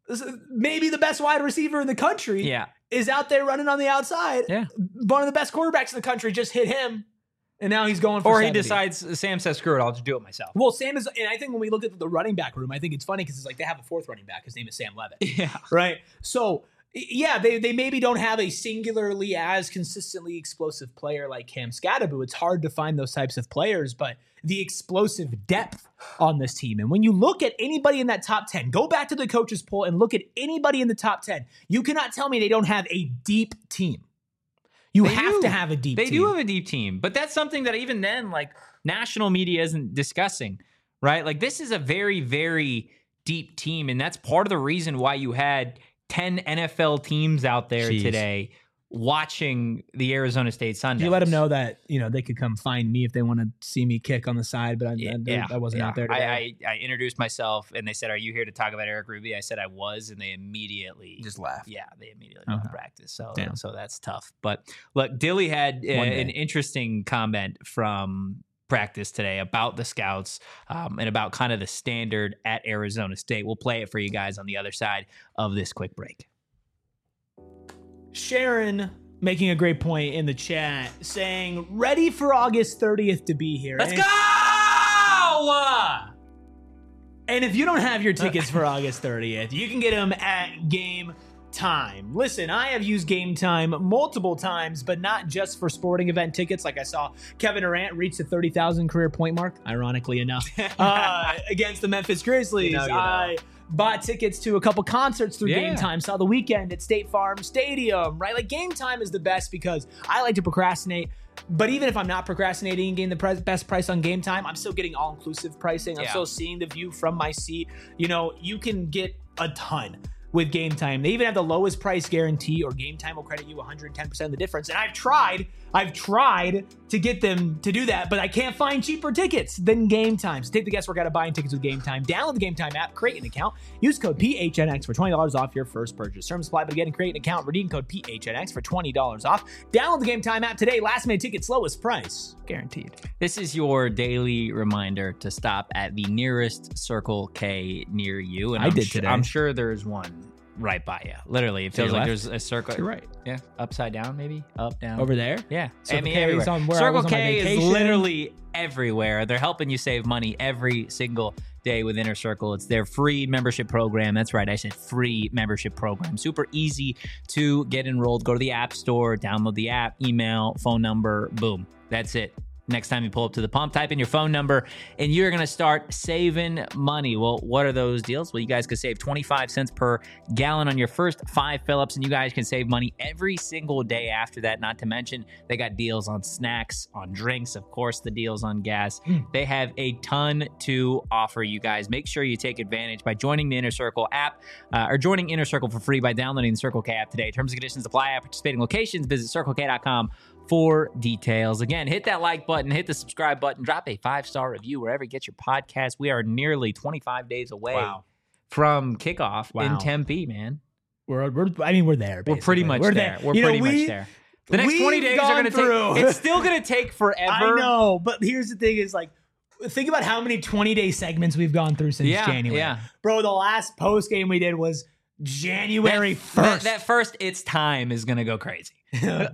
Maybe the best wide receiver in the country is out there running on the outside. Yeah. One of the best quarterbacks in the country just hit him, and now he's going for 70. He decides, Sam says, screw it, I'll just do it myself. Well, Sam is, and I think when we look at the running back room, I think it's funny because it's like they have a 4th running back. His name is Sam Levitt. Yeah. Right? So, yeah, they maybe don't have a singularly as consistently explosive player like Cam Scadaboo. It's hard to find those types of players, but the explosive depth on this team. And when you look at anybody in that top 10, go back to the coaches poll and look at anybody in the top 10. You cannot tell me they don't have a deep team. They have to have a deep team. They do have a deep team, but that's something that even then, like, national media isn't discussing, right? Like, this is a very, very deep team, and that's part of the reason why you had 10 NFL teams out there today watching the Arizona State Sundowns. You let them know that, they could come find me if they want to see me kick on the side, but I wasn't out there today. I introduced myself, and they said, are you here to talk about Eric Ruby? I said I was, and they immediately just laughed. Yeah, they immediately left practice. So that's tough. But look, Dilly had an interesting comment from practice today about the scouts and about kind of the standard at Arizona State. We'll play it for you guys on the other side of this quick break. Sharon making a great point in the chat, saying, ready for August 30th to be here. Let's go! And if you don't have your tickets for August 30th, you can get them at Game Time. Listen, I have used Game Time multiple times, but not just for sporting event tickets. Like I saw Kevin Durant reach the 30,000 career point mark, ironically enough, against the Memphis Grizzlies. I bought tickets to a couple concerts through Game Time. Saw The Weeknd at State Farm Stadium, right? Like, Game Time is the best because I like to procrastinate. But even if I'm not procrastinating and getting the best price on Game Time, I'm still getting all-inclusive pricing. I'm still seeing the view from my seat. You know, you can get a ton with Game Time. They even have the lowest price guarantee, or Game Time will credit you 110% of the difference. And I've tried to get them to do that, but I can't find cheaper tickets than Game Time. So take the guesswork out of buying tickets with Game Time. Download the Game Time app, create an account, use code PHNX for $20 off your first purchase. Terms apply, but again, create an account, redeem code PHNX for $20 off. Download the Game Time app today. Last minute tickets, lowest price guaranteed. This is your daily reminder to stop at the nearest Circle K near you. And I did today. I'm sure there's one right by you. Literally, it feels like there's a circle. You're right. Yeah, upside down, maybe up, down, Over there? Yeah, Circle I mean, K is everywhere. on where I Circle was on my K is vacation. literally everywhere. They're helping you save money every single day with Inner Circle. It's their free membership program. That's right, I said free membership program. Super easy to get enrolled. Go to the App Store, download the app, email, phone number, boom. That's it. Next time you pull up to the pump, type in your phone number, and you're going to start saving money. Well, what are those deals? Well, you guys could save 25 cents per gallon on your first 5 fill-ups, and you guys can save money every single day after that. Not to mention, they got deals on snacks, on drinks, of course, the deals on gas. They have a ton to offer you guys. Make sure you take advantage by joining the Inner Circle app, or joining Inner Circle for free by downloading the Circle K app today. Terms and conditions apply at participating locations. Visit CircleK.com for details. Again, hit that like button, hit the subscribe button, drop a 5-star review wherever you get your podcast. We are nearly 25 days away from kickoff in Tempe, man. We're there. Basically. We're pretty much there. We're pretty much there. The next 20 days are going to take. It's still going to take forever. I know, but here's the thing: is like, think about how many 20-day segments we've gone through since January. Yeah, bro. The last post game we did was January 1st. That first "It's Time" is going to go crazy. Okay.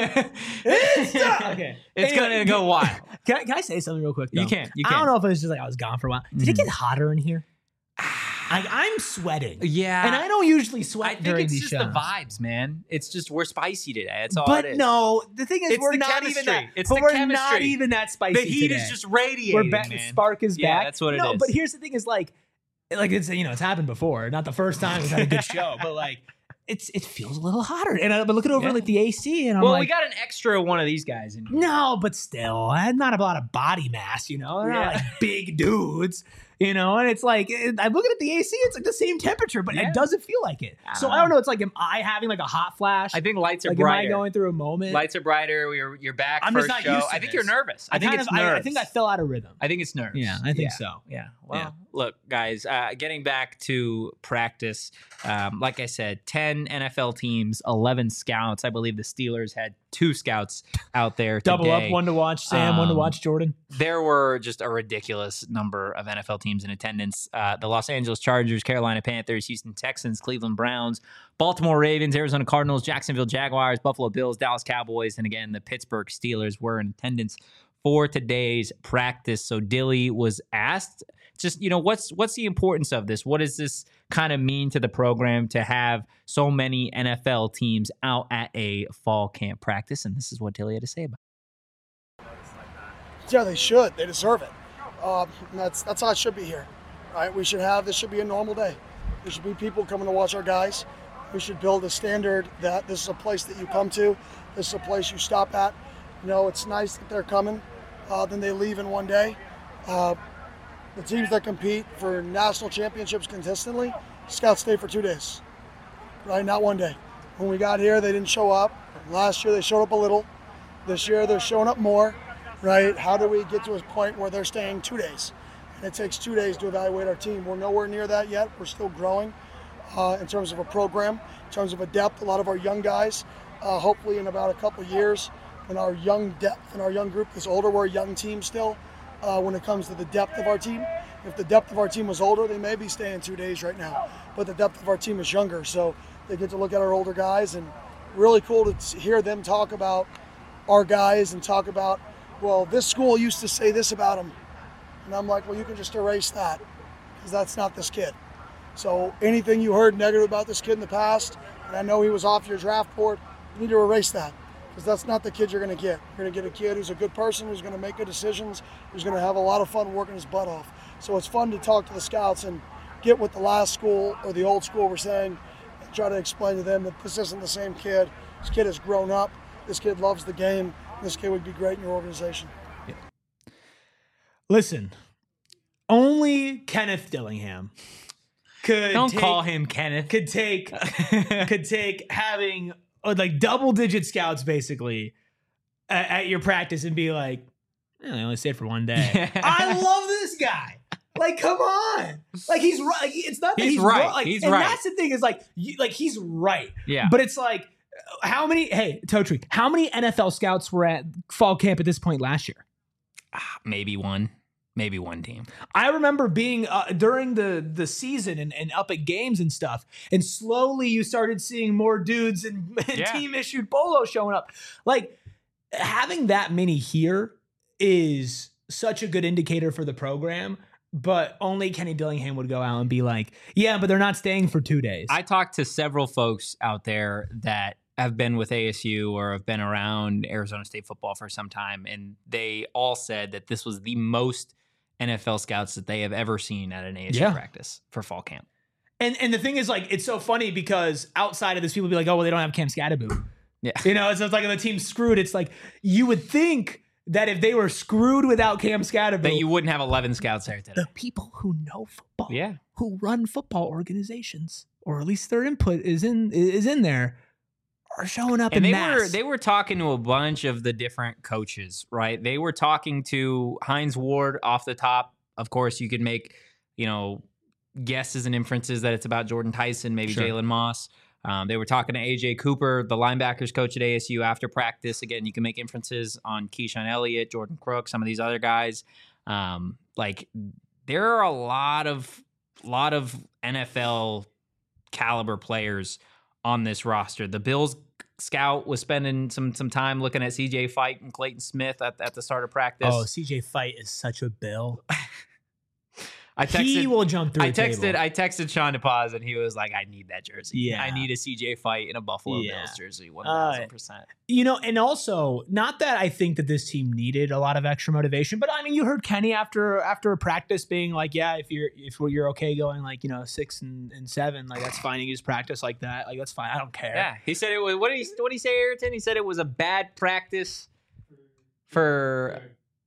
It's going to go wild. Can I say something real quick, though? You can. I don't know if it was just like I was gone for a while. Did it get hotter in here? I'm sweating. Yeah. And I don't usually sweat I think during it's these just shows. the vibes, man. It's just we're spicy today. That's all But it is. no, the thing is, It's we're the not chemistry. even that. It's but the we're chemistry. not even that spicy The heat today. is just radiating, We're back. man. The spark is Yeah, back. that's what it no, is. but here's the thing: is like it's it's happened before. Not the first time we've had a good show, but like it feels a little hotter. And I've been looking over like the AC, and I'm like, we got an extra one of these guys in here. no, but still, I had not a lot of body mass. They're not like big dudes. And it's like, I'm looking at the AC, it's like the same temperature, but it doesn't feel like it. So I don't know. It's like, am I having like a hot flash? I think lights are like, brighter. am I going through a moment? Lights are brighter. You're back. I'm first just not show. used to I think this. you're nervous. I think it's nerves. I think I fell out of rhythm. I think it's nerves. Yeah, I think so. Yeah. Well, look, guys, getting back to practice, like I said, 10 NFL teams, 11 scouts. I believe the Steelers had 2 scouts out there Double today. up, one to watch Sam, one to watch Jordan. There were just a ridiculous number of NFL teams in attendance. The Los Angeles Chargers, Carolina Panthers, Houston Texans, Cleveland Browns, Baltimore Ravens, Arizona Cardinals, Jacksonville Jaguars, Buffalo Bills, Dallas Cowboys, and again, the Pittsburgh Steelers were in attendance for today's practice. So Dilly was asked, just, what's the importance of this? What does this kind of mean to the program to have so many NFL teams out at a fall camp practice? And this is what Dilly had to say about it. Yeah, they should. They deserve it. That's how it should be here, right? This should be a normal day. There should be people coming to watch our guys. We should build a standard that this is a place that you come to. This is a place you stop at. It's nice that they're coming. Then they leave in one day. The teams that compete for national championships consistently, scouts stay for 2 days, right? Not one day. When we got here, they didn't show up. Last year, they showed up a little. This year, they're showing up more, right? How do we get to a point where they're staying 2 days? And it takes 2 days to evaluate our team. We're nowhere near that yet. We're still growing in terms of a program, in terms of a depth. A lot of our young guys, hopefully in about a couple of years, when our young depth and our young group is older, we're a young team still. When it comes to the depth of our team. If the depth of our team was older, they may be staying 2 days right now. But the depth of our team is younger, so they get to look at our older guys, and really cool to hear them talk about our guys and talk about, well, this school used to say this about them. And I'm like, well, you can just erase that because that's not this kid. So anything you heard negative about this kid in the past, and I know he was off your draft board, you need to erase that, because that's not the kid you're going to get. You're going to get a kid who's a good person, who's going to make good decisions, who's going to have a lot of fun working his butt off. So it's fun to talk to the scouts and get what the last school or the old school were saying and try to explain to them that this isn't the same kid. This kid has grown up. This kid loves the game. This kid would be great in your organization. Listen, only Kenneth Dillingham Don't call him Kenneth. could take having like double-digit scouts basically at your practice and be like, I only stayed for one day. I love this guy. Like, come on. Like, he's right. Like, it's not that He's he's right. wrong. Like, He's and right. that's the thing is like he's right. Yeah. But it's like, hey, Totri, how many NFL scouts were at fall camp at this point last year? Maybe one team. I remember being during the season and up at games and stuff, and slowly you started seeing more dudes and team issued polos showing up. Like, having that many here is such a good indicator for the program, but only Kenny Dillingham would go out and be like, yeah, but they're not staying for 2 days. I talked to several folks out there that have been with ASU or have been around Arizona State football for some time, and they all said that this was the most NFL scouts that they have ever seen at an ASU practice for fall camp. And the thing is, like, it's so funny because outside of this, people be like, oh, well, they don't have Cam Scatterbo. Yeah. You know, it's like if the team's screwed, it's like you would think that if they were screwed without Cam Scatterbo, That you wouldn't have 11 scouts there today. the people who know football, Yeah. who run football organizations, or at least their input is in there, are showing up And in they mass. were talking to a bunch of the different coaches, right? They were talking to Hines Ward off the top. Of course, you could make, guesses and inferences that it's about Jordan Tyson, maybe Sure. Jalen Moss. They were talking to AJ Cooper, the linebackers coach at ASU, after practice. Again, you can make inferences on Keyshawn Elliott, Jordan Crook, some of these other guys. Like, there are a lot of NFL caliber players on this roster. The Bills scout was spending some time looking at CJ Fight and Clayton Smith at the start of practice. Oh, CJ Fight is such a bill. I texted, He will jump through a table. I texted Sean DePaz and he was like, I need that jersey. Yeah. I need a CJ Fight in a Buffalo Yeah. Bills jersey. 1,000%. And also, not that I think that this team needed a lot of extra motivation, but I mean, you heard Kenny after a practice being like, yeah, if you're okay going like, 6 and 7, like that's fine. You just practice like that. Like, that's fine. I don't care. Yeah. He said it was, what did he say, Ayrton? He said it was a bad practice for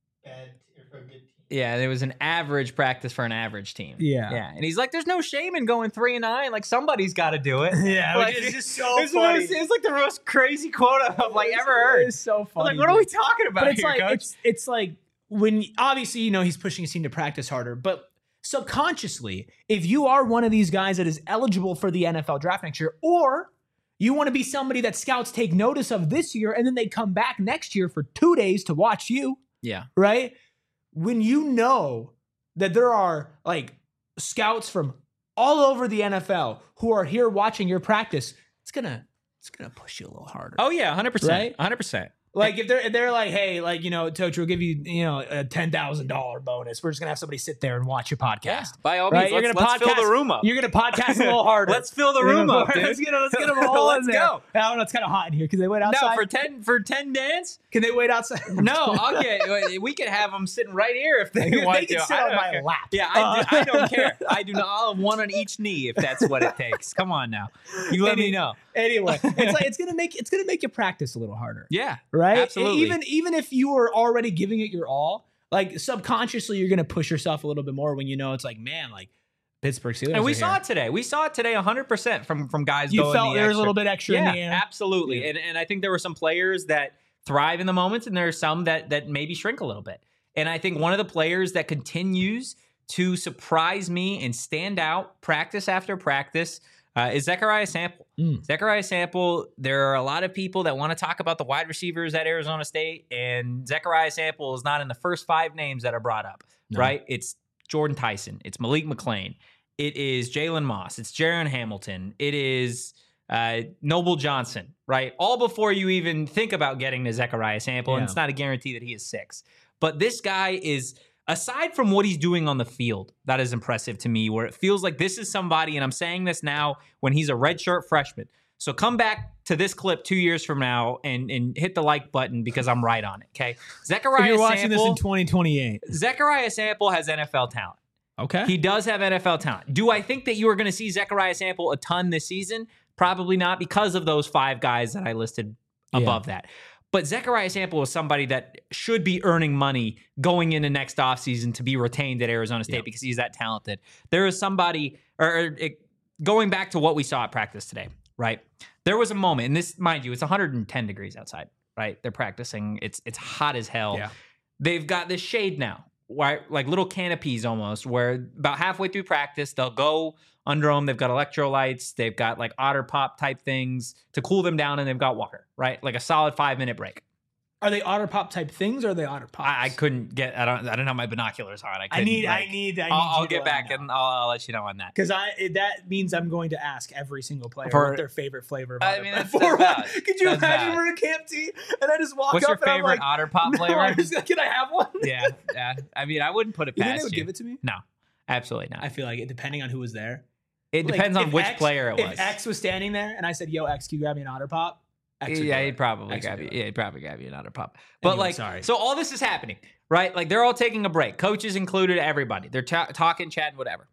yeah, it was an average practice for an average team. Yeah. Yeah. And he's like, there's no shame in going 3-9. Like, somebody's got to do it. Yeah, Like, which is just so it's funny. It's like the most crazy quote I've like ever heard. It's so I'm funny. like, what are we talking about But it's here, like coach? it's like when obviously he's pushing his team to practice harder, but subconsciously, if you are one of these guys that is eligible for the NFL draft next year, or you want to be somebody that scouts take notice of this year and then they come back next year for 2 days to watch you, Yeah. right? When you know that there are like scouts from all over the NFL who are here watching your practice, it's gonna push you a little harder. Oh, yeah. 100%. Right? 100%. Like if they're like, hey, like, Tochi will give you, a $10,000 bonus. We're just gonna have somebody sit there and watch your podcast. Yeah. By all Right? means, let's fill the room up. You're gonna podcast a little harder. Let's fill the room up, dude. Let's get them all Let's in there. go. I don't know. It's kind of hot in here. Can they wait outside? No, for 10 dance? Can they wait outside? No, we could have them sitting right here if they They want can to. sit I on don't my care. lap. Yeah, I don't care. I do not. I'll have one on each knee if that's what it takes. Come on now. You let me know. Anyway, it's gonna make you practice a little harder. Yeah. Right? Absolutely. Even if you were already giving it your all, like subconsciously you're gonna push yourself a little bit more when it's like, man, like Pittsburgh Steelers. And we are saw here. it today. We saw it today 100% from guys You going felt the there was a extra. little bit extra in Yeah, the air. absolutely. Yeah. And I think there were some players that thrive in the moments, and there are some that maybe shrink a little bit. And I think one of the players that continues to surprise me and stand out practice after practice is Zechariah Sample. Zechariah Sample, there are a lot of people that want to talk about the wide receivers at Arizona State, and Zechariah Sample is not in the first 5 names that are brought up, right? It's Jordan Tyson. It's Malik McClain. It is Jalen Moss. It's Jaron Hamilton. It is Noble Johnson, right? All before you even think about getting to Zechariah Sample, and Yeah. it's not a guarantee that he is 6. But this guy is, aside from what he's doing on the field, that is impressive to me, where it feels like this is somebody, and I'm saying this now when he's a redshirt freshman, So come back to this clip 2 years from now and hit the like button because I'm right on it. Okay. If you're watching this in 2028. Zechariah Sample has NFL talent. Okay. He does have NFL talent. Do I think that you are going to see Zechariah Sample a ton this season? Probably not, because of those 5 guys that I listed above that. But Zechariah Sample is somebody that should be earning money going into next offseason to be retained at Arizona State because he's that talented. There is somebody, going back to what we saw at practice today, right? There was a moment, and this, mind you, it's 110 degrees outside, right? They're practicing. It's hot as hell. Yeah. They've got this shade now, right? Like little canopies almost, where about halfway through practice, they'll go under them. They've got electrolytes. They've got like Otter Pop type things to cool them down, and they've got water, right? Like a solid 5-minute break. Are they Otter Pop type things, or are they Otter Pops? I couldn't get. I don't have my binoculars on. I need. I'll get back and I'll let you know on that. Because that means I'm going to ask every single player what their favorite flavor of I mean, Otter that's Pop. valid. Could you That's imagine valid. we're at Camp T and I just walk What's up your and I'm favorite like, Otter Pop flavor? No, I'm just like, can I have one? Yeah. I mean, I wouldn't put it You past think they would you. give it to me? No, absolutely not. I feel like it, depending on who was there. It depends Like, on if which X- player it was. If X was standing there and I said, "Yo, X, can you grab me an Otter Pop?" X would Yeah, do he'd it. probably X would grab do you. it. Yeah, he'd probably grab you an Otter Pop. But Anyway, like, sorry. so all this is happening, right? Like they're all taking a break. Coaches included, everybody. They're talking, chatting, whatever.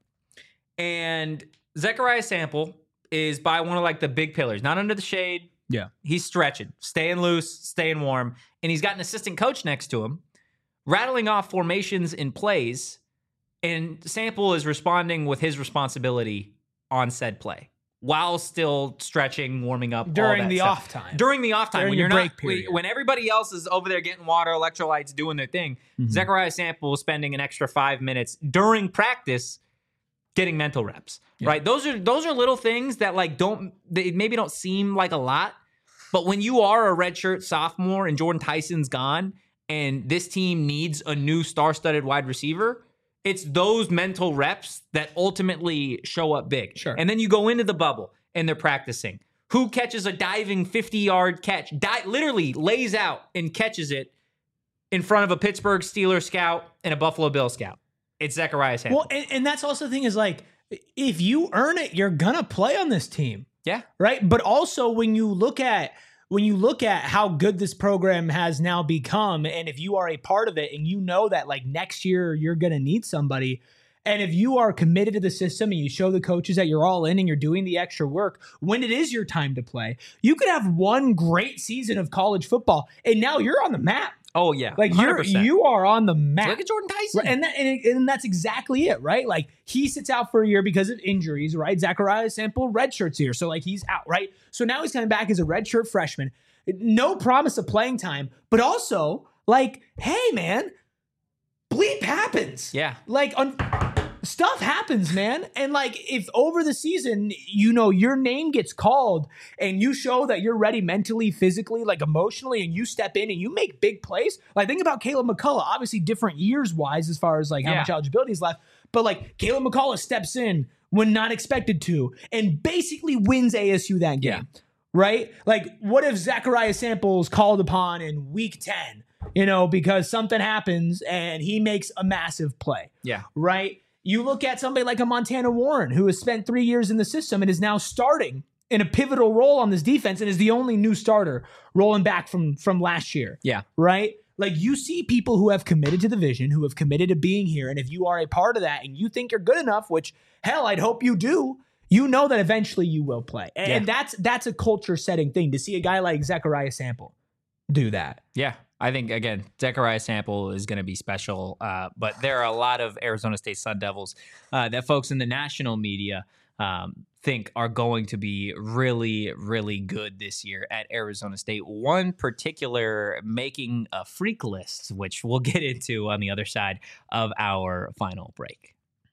And Zechariah Sample is by one of like the big pillars, not under the shade. Yeah. He's stretching, staying loose, staying warm. And he's got an assistant coach next to him, rattling off formations and plays. And Sample is responding with his responsibility on said play while still stretching, warming up all During that the stuff. off time. During the off time, During when the you're break not, period. when everybody else is over there getting water, electrolytes, doing their thing, Mhm. Zechariah Sample is spending an extra 5 minutes during practice getting mental reps. Yeah. Right? Those are little things that like they maybe don't seem like a lot, but when you are a redshirt sophomore and Jordan Tyson's gone, and this team needs a new star-studded wide receiver, it's those mental reps that ultimately show up big. Sure. And then you go into the bubble and they're practicing. Who catches a diving 50-yard catch? Literally lays out and catches it in front of a Pittsburgh Steelers scout and a Buffalo Bill scout. It's Zechariah Sample. Well, and that's also the thing is like, if you earn it, you're gonna play on this team. Yeah. Right. But also when you look at how good this program has now become, and if you are a part of it and you know that like next year you're going to need somebody, and if you are committed to the system and you show the coaches that you're all in and you're doing the extra work, when it is your time to play, you could have one great season of college football and now you're on the map. Oh, yeah. Like 100%. you are on the map. Look at Jordan Tyson. Right, and that's exactly it, right? Like he sits out for a year because of injuries, right? Zechariah Sample redshirts here, so like he's out, right? So now he's coming back as a redshirt freshman, no promise of playing time, but also like, hey man, bleep happens. Yeah. Like stuff happens, man. And like if over the season, you know, your name gets called and you show that you're ready mentally, physically, like emotionally, and you step in and you make big plays. Like think about Caleb McCullough, obviously different years wise as far as like how much eligibility is left. But like Caleb McCullough steps in when not expected to and basically wins ASU that game. Yeah. Right? Like what if Zechariah Sample is called upon in week 10, you know, because something happens and he makes a massive play. Yeah. Right? You look at somebody like a Montana Warren who has spent 3 years in the system and is now starting in a pivotal role on this defense and is the only new starter rolling back from last year. Yeah. Right? Like you see people who have committed to the vision, who have committed to being here. And if you are a part of that and you think you're good enough, which hell, I'd hope you do, you know that eventually you will play. And that's a culture setting thing to see a guy like Zechariah Sample do that. Yeah. I think, again, Zechariah Sample is going to be special, but there are a lot of Arizona State Sun Devils that folks in the national media think are going to be really, really good this year at Arizona State. One particular making a freak list, which we'll get into on the other side of our final break.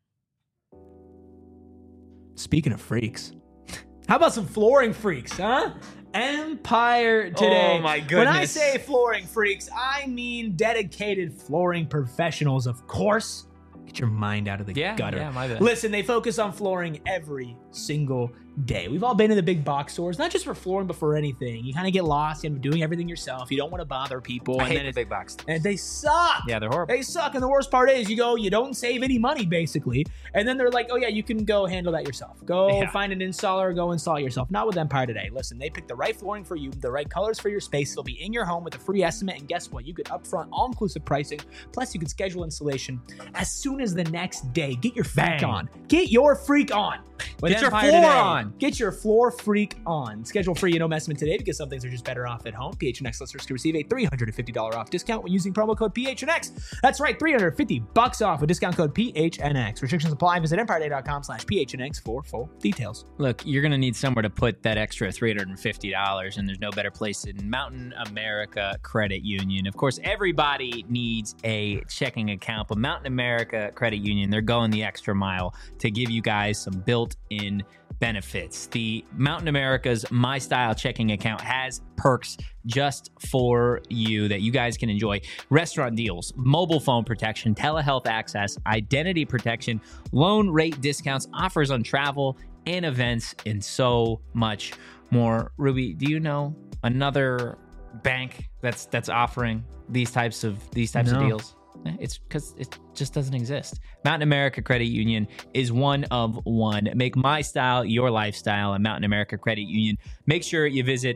Speaking of freaks, how about some flooring freaks, huh? Empire today. Oh, my When I goodness. say flooring freaks, I mean dedicated flooring professionals, of course. Get your mind out of the gutter. Yeah, my bad. Listen, they focus on flooring every single day. We've all been in the big box stores, not just for flooring, but for anything. You kind of get lost in doing everything yourself. You don't want to bother people. I and hate then the big box. and they suck. Yeah, they're horrible. They suck. And the worst part is you don't save any money basically. And then they're like, oh yeah, you can go handle that yourself. Go find an installer, go install it yourself. Not with Empire Today. Listen, they pick the right flooring for you, the right colors for your space. They'll be in your home with a free estimate. And guess what? You get upfront all-inclusive pricing. Plus you can schedule installation as soon as the next day. Get your freak on. Get your freak on. With Get your Empire floor Today. on. Get your floor freak on. Schedule free and no messman today because some things are just better off at home. PHNX listeners can receive a $350 off discount when using promo code PHNX. That's right, $350 off with discount code PHNX. Restrictions apply. Visit empireday.com/PHNX for full details. Look, you're going to need somewhere to put that extra $350, and there's no better place than Mountain America Credit Union. Of course, everybody needs a checking account, but Mountain America Credit Union, they're going the extra mile to give you guys some built-in benefits. The Mountain America's My Style checking account has perks just for you that you guys can enjoy. Restaurant deals, mobile phone protection, telehealth access, identity protection, loan rate discounts, offers on travel and events, and so much more. Ruby, do you know another bank that's offering these types of deals? It's because it just doesn't exist. Mountain America Credit Union is one of one. Make my style your lifestyle at Mountain America Credit Union. Make sure you visit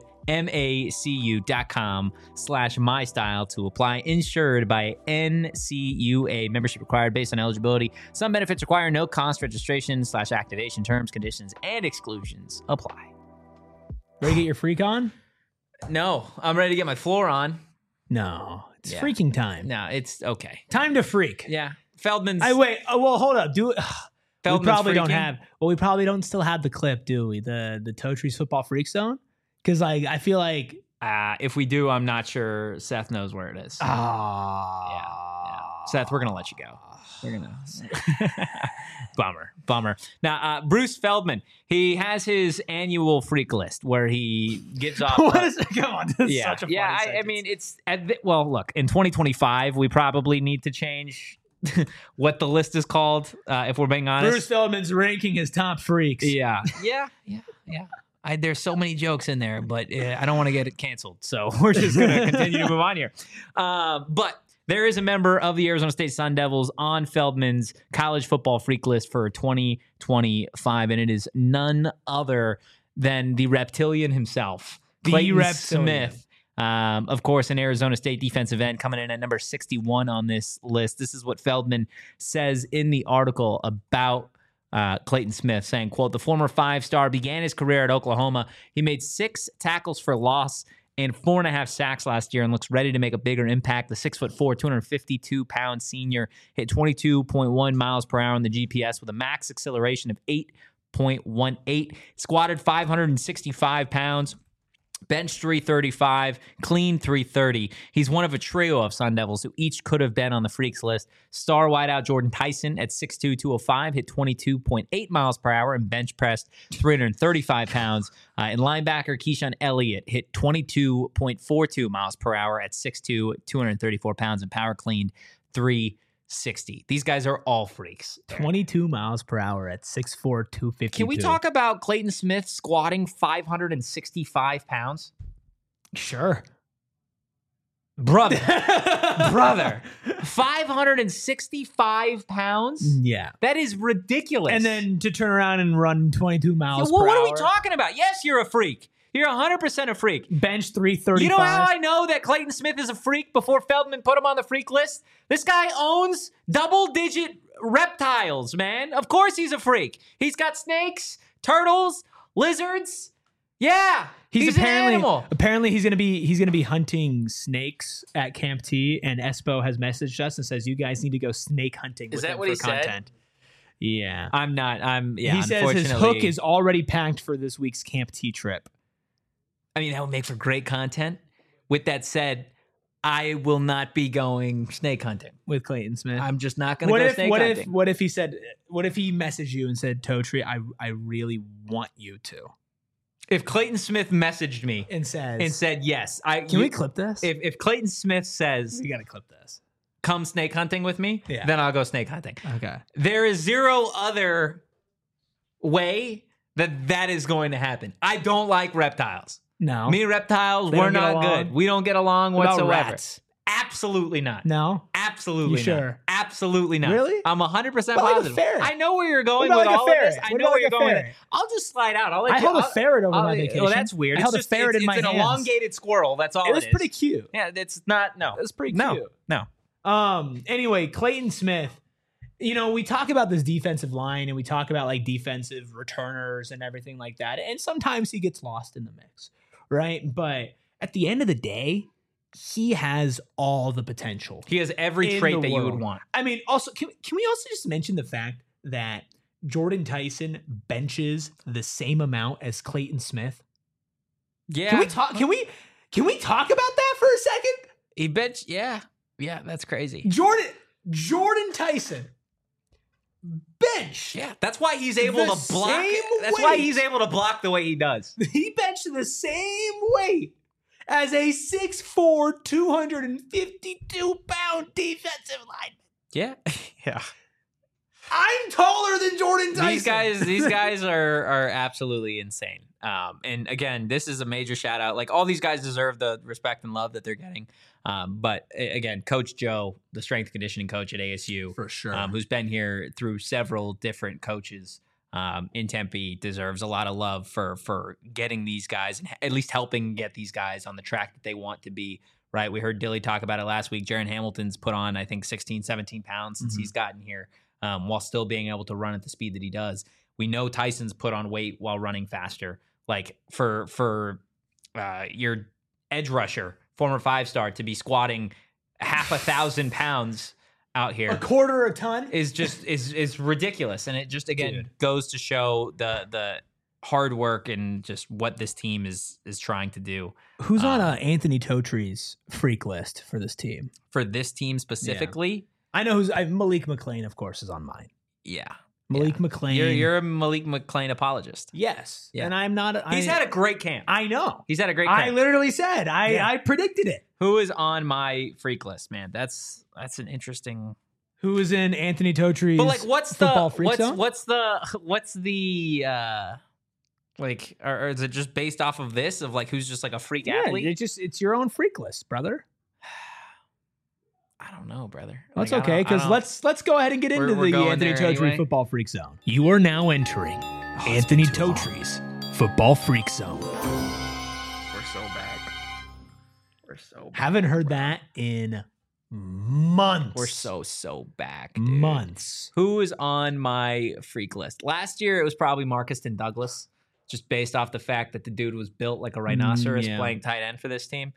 macu.com/mystyle to apply. Insured by NCUA. Membership required based on eligibility. Some benefits require no cost registration/activation. Terms, conditions, and exclusions apply. Ready to get your freak on? No, I'm ready to get my floor on. No, it's Yeah. freaking time. No, it's okay. Time to freak. Yeah. Feldman's. Wait. Oh, well, hold up. Do it. We Feldman's probably don't freaking? have. Well, we probably don't still have the clip, do we? The Totries football freak zone, because I feel like If we do, I'm not sure Seth knows where it is. Yeah. Seth, we're going to let you go. We're going to. Bummer. Now, Bruce Feldman, he has his annual freak list where he gives off. What is it? Come on. This is such a funny I sentence. mean, it's well, look, in 2025, we probably need to change what the list is called, if we're being honest. Bruce Feldman's ranking his top freaks. Yeah. There's so many jokes in there, but I don't want to get it canceled. So we're just going to continue to move on here. But there is a member of the Arizona State Sun Devils on Feldman's college football freak list for 2025, and it is none other than the reptilian himself, Clayton Smith. Of course, an Arizona State defensive end coming in at number 61 on this list. This is what Feldman says in the article about Clayton Smith, saying, quote, the former 5-star began his career at Oklahoma. He made 6 tackles for loss and 4.5 sacks last year and looks ready to make a bigger impact. The 6'4", 252-pound senior hit 22.1 miles per hour on the GPS with a max acceleration of 8.18, squatted 565 pounds, bench 335, clean 330. He's one of a trio of Sun Devils who each could have been on the freaks list. Star wideout Jordan Tyson at 6'2", 205 hit 22.8 miles per hour and bench pressed 335 pounds. And linebacker Keyshawn Elliott hit 22.42 miles per hour at 6'2", 234 pounds and power cleaned 360. These guys are all freaks. 22 miles per hour at 6'4", 252. Can we talk about Clayton Smith squatting 565 pounds? Sure. Brother, 565 pounds? Yeah. That is ridiculous. And then to turn around and run 22 miles well, per what hour. are we talking about? Yes, you're a freak. You're 100% a freak. Bench 335. You know how I know that Clayton Smith is a freak before Feldman put him on the freak list? This guy owns double-digit reptiles, man. Of course he's a freak. He's got snakes, turtles, lizards. Yeah, he's an animal. Apparently he's gonna be hunting snakes at Camp T, and Espo has messaged us and says you guys need to go snake hunting. Is with that him what for he said? content. Yeah. He He says his hook is already packed for this week's Camp T trip. I mean, that would make for great content. With that said, I will not be going snake hunting. With Clayton Smith. I'm just not going to go snake hunting. What if he messaged you and said, Totri, I really want you to. If Clayton Smith messaged me And says, said yes, can we clip this? If Clayton Smith says, We gotta clip this. come snake hunting with me, then I'll go snake hunting. Okay. There is zero other way that is going to happen. I don't like reptiles. No. Me and reptiles, They we're don't get not along? good. We don't get along What about whatsoever. rats? Absolutely not. No. Absolutely You not. sure? Absolutely not. Really? I'm 100% But like a positive. ferret. I know where you're going What with about all like a of this. ferret? I What know about where like you're a going with it. ferret? I'll just slide out. I'll let I you. held a ferret over my vacation. Well, that's weird. I It's held a just, ferret it's, in my it's an hands. elongated squirrel. That's all It was is. pretty cute. Yeah, it's not. No, It was pretty no, cute. no. Anyway, Clayton Smith, we talk about this defensive line and we talk about like defensive returners and everything like that. And sometimes he gets lost in the mix, right? But at the end of the day, he has all the potential. He has every In trait the that you would world. want. I mean, also, can we also just mention the fact that Jordan Tyson benches the same amount as Clayton Smith? Yeah. Can we talk? Can we talk about that for a second? He bench. Yeah, that's crazy. Jordan Tyson bench. Yeah, that's why he's able The to block. same That's why weight. he's able to block the way he does. He benched the same weight as a 6'4", 252-pound defensive lineman. Yeah, yeah. I'm taller than Jordan Tyson. These guys are absolutely insane. And again, this is a major shout out. Like all these guys deserve the respect and love that they're getting. But again, Coach Joe, the strength and conditioning coach at ASU, For sure. who's been here through several different coaches in Tempe, deserves a lot of love for getting these guys and at least helping get these guys on the track that they want to be. Right. We heard Dilly talk about it last week. Jaron Hamilton's put on, I think, 16, 17 pounds since he's gotten here. While still being able to run at the speed that he does. We know Tyson's put on weight while running faster. Like for your edge rusher, former 5-star, to be squatting 1,000 pounds out here a quarter a ton. is ridiculous. And it just again goes to show the hard work and just what this team is trying to do. Who's on Anthony Totre's freak list for this team? For this team specifically, I know who's Malik McClain, of course, is on mine. yeah. Malik McClain. You're a Malik McClain apologist. Yes. Yeah. And I'm not. He's had a great camp. I know. He's had a great camp. I literally said. I predicted it. Who is on my freak list, man? That's an interesting. Who is in Anthony Totre's But like, what's the football freak zone? what's the like, or is it just based off of this of like who's just like a freak athlete? It's your own freak list, brother. I don't know, brother. That's Like, okay, because let's go ahead and get into We're the going Anthony there Totri anyway. football freak zone. You are now entering Anthony Totri's football freak zone. We're so back. We're so back. Haven't heard that in months. We're so back, dude. months. Who is on my freak list? Last year it was probably Marcuston Douglas, just based off the fact that the dude was built like a rhinoceros yeah. playing tight end for this team.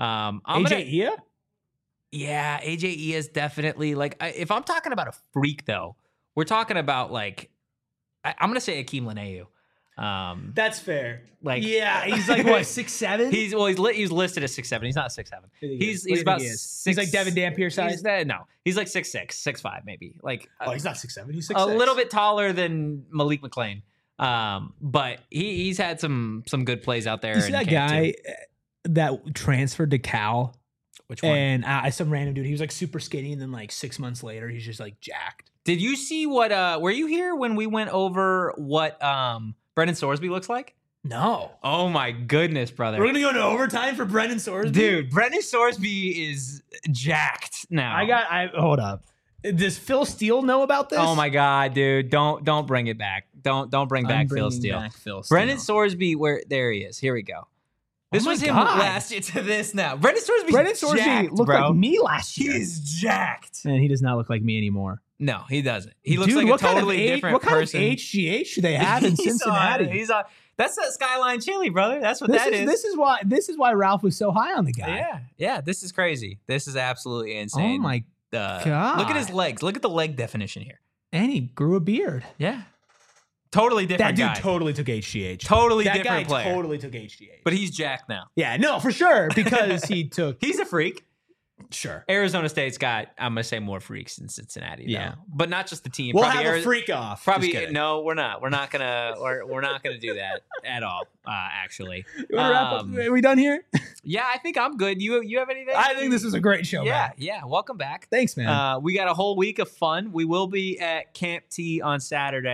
AJ Yeah, AJ is definitely like. If I'm talking about a freak, though, we're talking about like. I'm gonna say Akeem Lanayu. That's fair. Like, yeah, he's like what 6'7". He's listed as 6'7". He's not 6'7". He's about six. He's like Devin Dampier size. No, he's like 6'6", 6'5", maybe. Like He's not 6'7". He's 6'6". a little bit taller than Malik McClain. But he's had some good plays out there. You see that guy that transferred to Cal? Which one? And some random dude. He was like super skinny, and then like 6 months later, he's just like jacked. Did you see what? Were you here when we went over what Brendan Sorsby looks like? No. Oh my goodness, brother! We're gonna go into overtime for Brendan Sorsby? Dude, Brendan Sorsby is jacked now. Hold up. Does Phil Steele know about this? Oh my god, dude! Don't bring it back. Don't bring back Phil Steele. Brendan Sorsby, there he is. Here we go. This was him last year to this now. Brendan Sorsby jacked, looked bro. like me last year. He's jacked. And he does not look like me anymore. No, he doesn't. He looks Dude, like a what totally kind of different what kind person. of HGH do they have in Cincinnati? He's on. That's that Skyline Chili, brother. That's what that is. This is why Ralph was so high on the guy. Yeah. This is crazy. This is absolutely insane. Oh my god! Look at his legs. Look at the leg definition here. And he grew a beard. Yeah. Totally different That guy. dude totally took HGH. Totally that different guy player. totally took HGH. But he's jacked now. Yeah, no, for sure, because he took. He's a freak. Sure. Arizona State's got, I'm going to say, more freaks than Cincinnati. Though. Yeah. But not just the team. We'll probably have a freak off. Probably no, we're not. We're not gonna do that at all. Actually, You wanna wrap up? Are we done here? Yeah, I think I'm good. You have anything? I think this was a great show. Yeah, man. yeah. Welcome back. Thanks, man. We got a whole week of fun. We will be at Camp T on Saturday.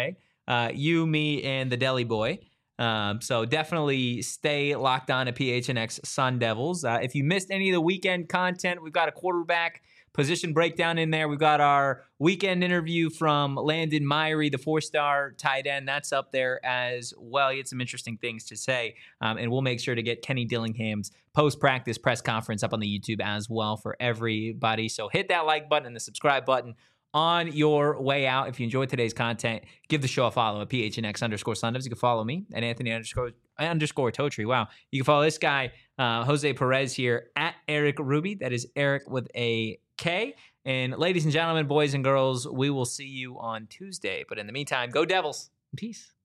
you, me, and the Deli Boy. So definitely stay locked on to PHNX Sun Devils. If you missed any of the weekend content, we've got a quarterback position breakdown in there. We've got our weekend interview from Landon Myrie, the 4-star tight end. That's up there as well. He had some interesting things to say. And we'll make sure to get Kenny Dillingham's post-practice press conference up on the YouTube as well for everybody. So hit that like button and the subscribe button on your way out. If you enjoyed today's content, give the show a follow at PHNX_Sundevs. You can follow me at Anthony_Totri. Wow. You can follow this guy, Jose Perez here at Eric Ruby. That is Eric with a K. And ladies and gentlemen, boys and girls, we will see you on Tuesday. But in the meantime, go Devils. Peace.